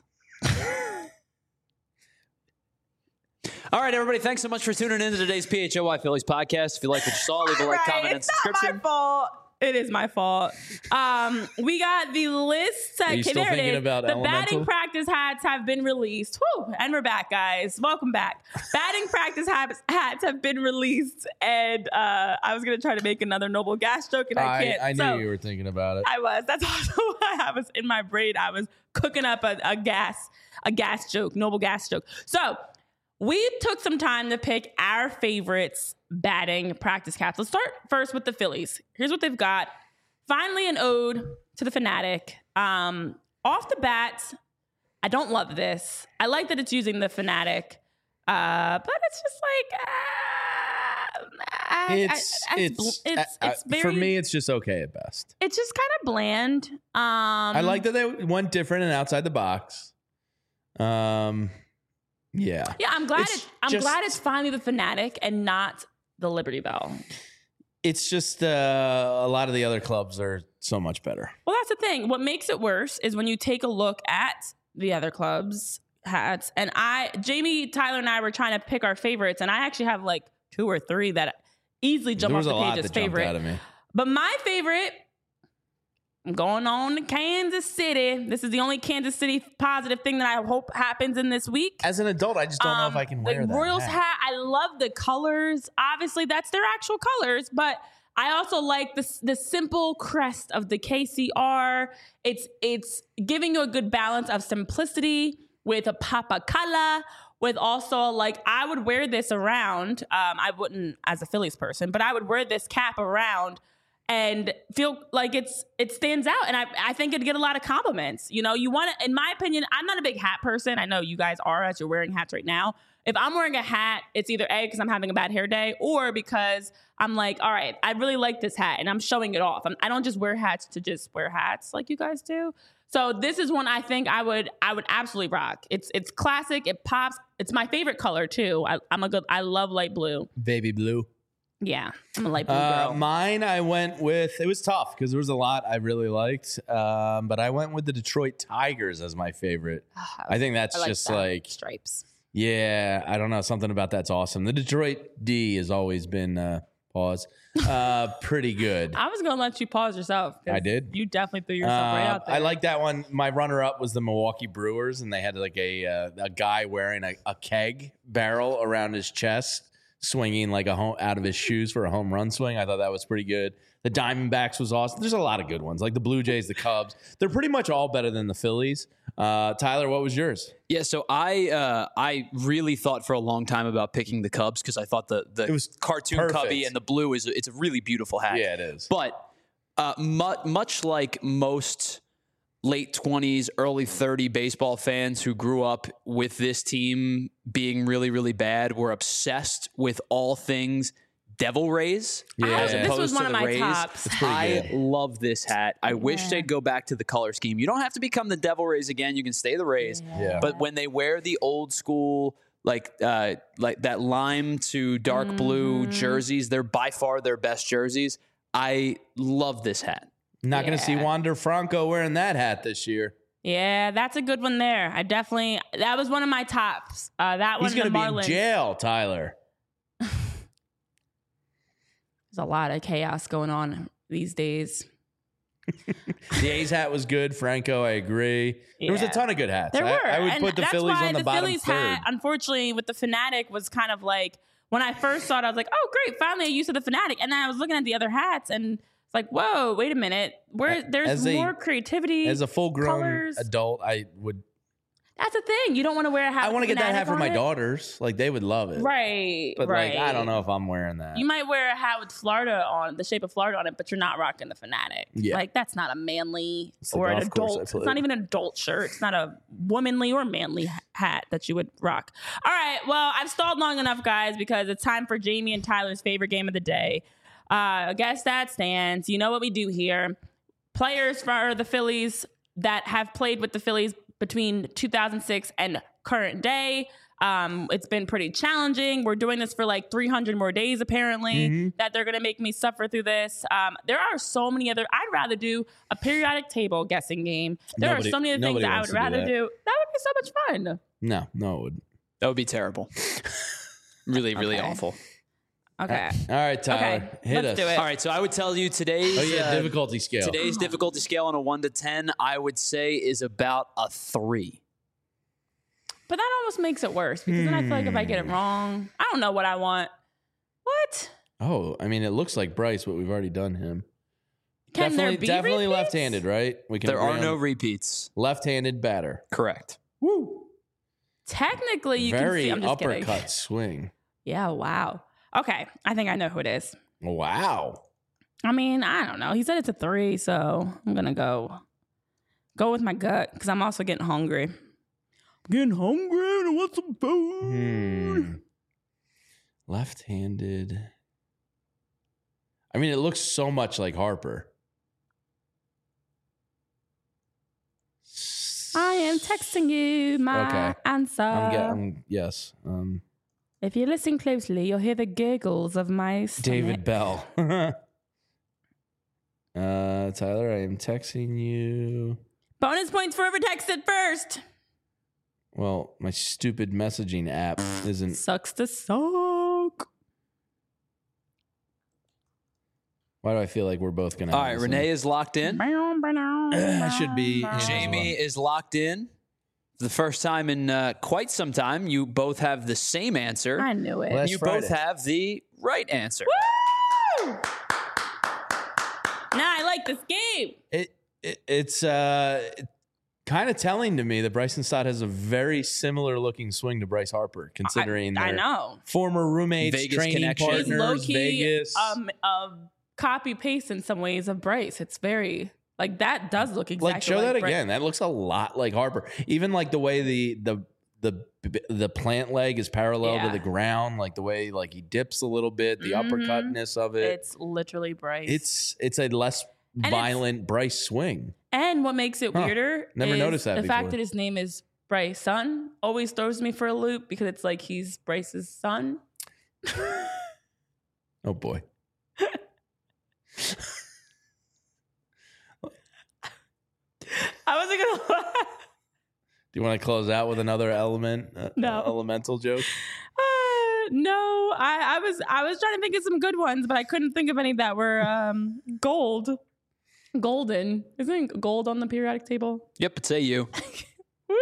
All right, everybody. Thanks so much for tuning in to today's P H O Y Phillies podcast. If you like what you saw, leave a like, Right, comment, and it's not subscription. my fault. It is my fault. Um, we got the list. Are you okay, still there it thinking is. about the Elemental? batting practice hats have been released. Whew, and we're back, guys. Welcome back. Batting practice hats, hats have been released, and uh, I was gonna try to make another Noble Gas joke, and I I, can't. I knew So- you were thinking about it. I was. That's also why I was in my brain. I was cooking up a, a gas, a gas joke, Noble Gas joke. So we took some time to pick our favorites batting practice caps. Let's start first with the Phillies. Here's what they've got. Finally, an ode to the Fanatic. Um, off the bat, I don't love this. I like that it's using the Fanatic, uh, but it's just like. Uh, I, it's, I, I, it's, it's, I- it's I- very, for me, it's just okay at best. it's just kind of bland. Um, I like that they went different and outside the box. Um, yeah. Yeah, I'm glad. It's It's, I'm just- glad it's finally the Fanatic and not the Liberty Bell. It's just uh, a lot of the other clubs are so much better. Well, that's the thing. What makes it worse is when you take a look at the other clubs' hats. And I, Jamie, Tyler, and I were trying to pick our favorites, and I actually have like two or three that easily jump There off was a the lot page as that jumped favorite. out of me. But my favorite, I'm going on to Kansas City. This is the only Kansas City positive thing that I hope happens in this week. As an adult, I just don't know if I can wear the that Royals hat. hat. I love the colors. Obviously, that's their actual colors, but I also like the the simple crest of the K C R. It's it's giving you a good balance of simplicity with a pop of color, with also like I would wear this around. Um, I wouldn't as a Phillies person, but I would wear this cap around and feel like it's it stands out. And I, I think it'd get a lot of compliments. You know, you want to, in my opinion, I'm not a big hat person. I know you guys are as you're wearing hats right now. If I'm wearing a hat, it's either A, because I'm having a bad hair day, or because I'm like, all right, I really like this hat and I'm showing it off. I'm, I don't just wear hats to just wear hats like you guys do. So this is one I think I would I would absolutely rock. It's it's classic. It pops. It's my favorite color too. I, I'm a good. I love light blue. Baby blue. Yeah, I'm a light blue Uh, girl. mine, I went with, it was tough because there was a lot I really liked, um, but I went with the Detroit Tigers as my favorite. I think that's I like just that. like, stripes. yeah, I don't know. Something about that's awesome. The Detroit D has always been, uh, pause, uh, pretty good. I was gonna let you pause yourself. 'cause I did? You definitely threw yourself right Uh, out there. I like that one. My runner-up was the Milwaukee Brewers, and they had like a uh, a guy wearing a, a keg barrel around his chest, swinging like a home out of his shoes for a home run swing. I thought that was pretty good. The Diamondbacks was awesome. There's a lot of good ones, like the Blue Jays, the Cubs. They're pretty much all better than the Phillies. Uh, Tyler, what was yours? Yeah, so I uh, I really thought for a long time about picking the Cubs because I thought the the It was cartoon perfect. Cubby and the blue is it's a really beautiful hat. Yeah, it is. But uh, mu- much like most late twenties, early thirty baseball fans who grew up with this team being really, really bad, were obsessed with all things Devil Rays. Yeah. as This opposed was to one of the my Rays. tops. It's pretty I good. love this hat. I wish Yeah. they'd go back to the color scheme. You don't have to become the Devil Rays again. You can stay the Rays. Yeah. But when they wear the old school, like uh, like that lime to dark blue Mm-hmm. jerseys, they're by far their best jerseys. I love this hat. Not going to see Yeah. Wander Franco wearing that hat this year. Yeah, that's a good one there. I definitely that was one of my tops. Uh, that He's one, going the to be in Marlins. jail, Tyler. There's a lot of chaos going on these days. The A's hat was good. Franco, I agree. There was a Yeah. ton of good hats. There I, were. I would and put the that's Phillies why on the, the bottom Phillies third. hat, unfortunately, with the Fanatic was kind of like when I first saw it, I was like, "Oh, great! Finally, a use of the Fanatic." And then I was looking at the other hats, and it's like, "Whoa, wait a minute! Where there's As a- more creativity." As a full-grown colors. adult, I would. That's the thing. You don't want to wear a hat. I want to with get that hat Fanatic for on my it. daughters. Like they would love it. Right. But right. like, I don't know if I'm wearing that. You might wear a hat with Florida on the shape of Florida on it, but you're not rocking the Fanatic. Yeah. Like that's not a manly It's the or an golf course I adult. It's played. not even an adult shirt. It's not a womanly or manly ha- hat that you would rock. All right. Well, I've stalled long enough, guys, because it's time for Jamie and Tyler's favorite game of the day. Uh, I guess that stands. You know what we do here. Players for the Phillies that have played with the Phillies between two thousand six and current day. Um, it's been pretty challenging. We're doing this for like three hundred more days, apparently, Mm-hmm. that they're going to make me suffer through this. Um, there are so many other, I'd rather do a periodic table guessing game. There Nobody- are so many other things nobody that I wants would to do rather that. do. That would be so much fun. No, no, it would. That would be terrible. really, really Okay. awful. Okay. All right, Tyler, Okay, hit let's us. do it. All right, so I would tell you today's Oh yeah, uh, difficulty scale. today's difficulty scale on a one to ten, I would say is about a three. But that almost makes it worse because then I feel like if I get it Hmm. wrong, I don't know what I want. What? Oh, I mean, it looks like Bryce, but we've already done him. Can definitely, there be definitely repeats? left-handed, right? We can There agree are on no repeats. left-handed batter. Correct. Woo! Technically, you Very can see. I'm just uppercut kidding. swing. Yeah. Wow. Okay. I think I know who it is. Wow. I mean, I don't know. He said it's a three, so I'm gonna go go with my gut because I'm also getting hungry. I'm getting hungry and I want some food. Hmm. Left-handed. I mean, it looks so much like Harper. I am texting you my Okay. answer. I'm getting yes. Um, If you listen closely, you'll hear the gurgles of my stomach. David Bell. uh, Tyler, I am texting you. Bonus points for whoever texted first. Well, my stupid messaging app isn't. Sucks to suck. Why do I feel like we're both gonna? All right, Renee is locked in. I should be. Jamie is locked in. For the first time in uh, quite some time, you both have the same answer. I knew it. Last you Friday. both have the right answer. Woo! Nah, I like this game. It, it it's uh, kind of telling to me that Bryson Stott has a very similar looking swing to Bryce Harper, considering I, I their know. former roommates, Vegas training connection. He's partners, low-key, Vegas. um, a copy paste in some ways of Bryce. It's very like that does look exactly like show like that Bryce. again. That looks a lot like Harper. Even like the way the the the the plant leg is parallel Yeah. to the ground, like the way like he dips a little bit, the Mhm. uppercutness of it. It's literally Bryce. It's it's a less it's- violent Bryce swing. and what makes it Huh. weirder Never is noticed that the fact before. that his name is Bryce Son always throws me for a loop because it's like he's Bryce's son. Oh boy. I wasn't gonna lie. Do you want to close out with another element? Uh, No. elemental joke. Uh, no, I, I was I was trying to think of some good ones, but I couldn't think of any that were um, gold, golden. Isn't gold on the periodic table? Yep, it's A U. Woo-hoo!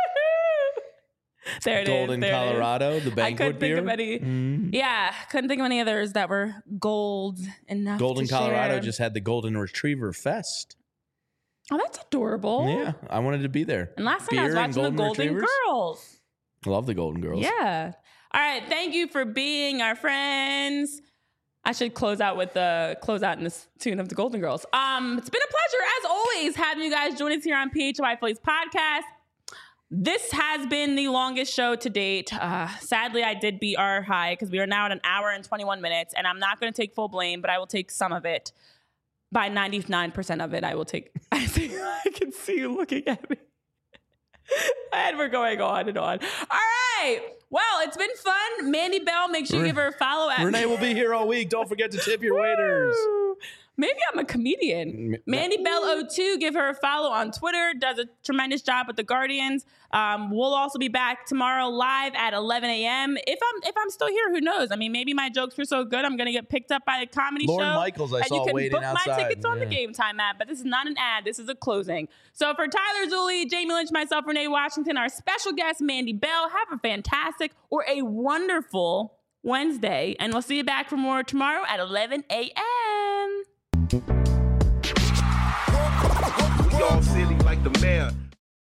There it is. Golden, there it is. Colorado, the I banquet couldn't beer. think of any. Mm. Yeah, couldn't think of any others that were gold enough. Golden, to Colorado share. just had the Golden Retriever Fest. Oh, that's adorable. Yeah, I wanted to be there. And last time I was Beer and watching the Golden Golden Retrievers? Girls. Love the Golden Girls. Yeah. All right. Thank you for being our friends. I should close out with the close out in this tune of the Golden Girls. Um, it's been a pleasure as always having you guys join us here on P H Y Phillies podcast. This has been the longest show to date. Uh, sadly, I did beat our high because we are now at an hour and twenty-one minutes, and I'm not going to take full blame, but I will take some of it. By ninety-nine percent of it, I will take. I think I can see you looking at me. And we're going on and on. All right. Well, it's been fun. Mandy Bell, make sure you Re- give her a follow at Renee will be here all week. Don't forget to tip your waiters. Woo! Maybe I'm a comedian. M- Mandy Bell oh two, give her a follow on Twitter. Does a tremendous job with the Guardians. Um, we'll also be back tomorrow live at eleven a.m. If I'm if I'm still here, who knows? I mean, maybe my jokes were so good, I'm gonna get picked up by a comedy Lauren show. Michaels, I and saw you can waiting book outside. my tickets on the Yeah. Game Time app. But this is not an ad. This is a closing. So for Tyler Zulli, Jamie Lynch, myself, Renee Washington, our special guest Mandy Bell, have a fantastic or a wonderful Wednesday, and we'll see you back for more tomorrow at eleven a.m. We all silly like the mayor.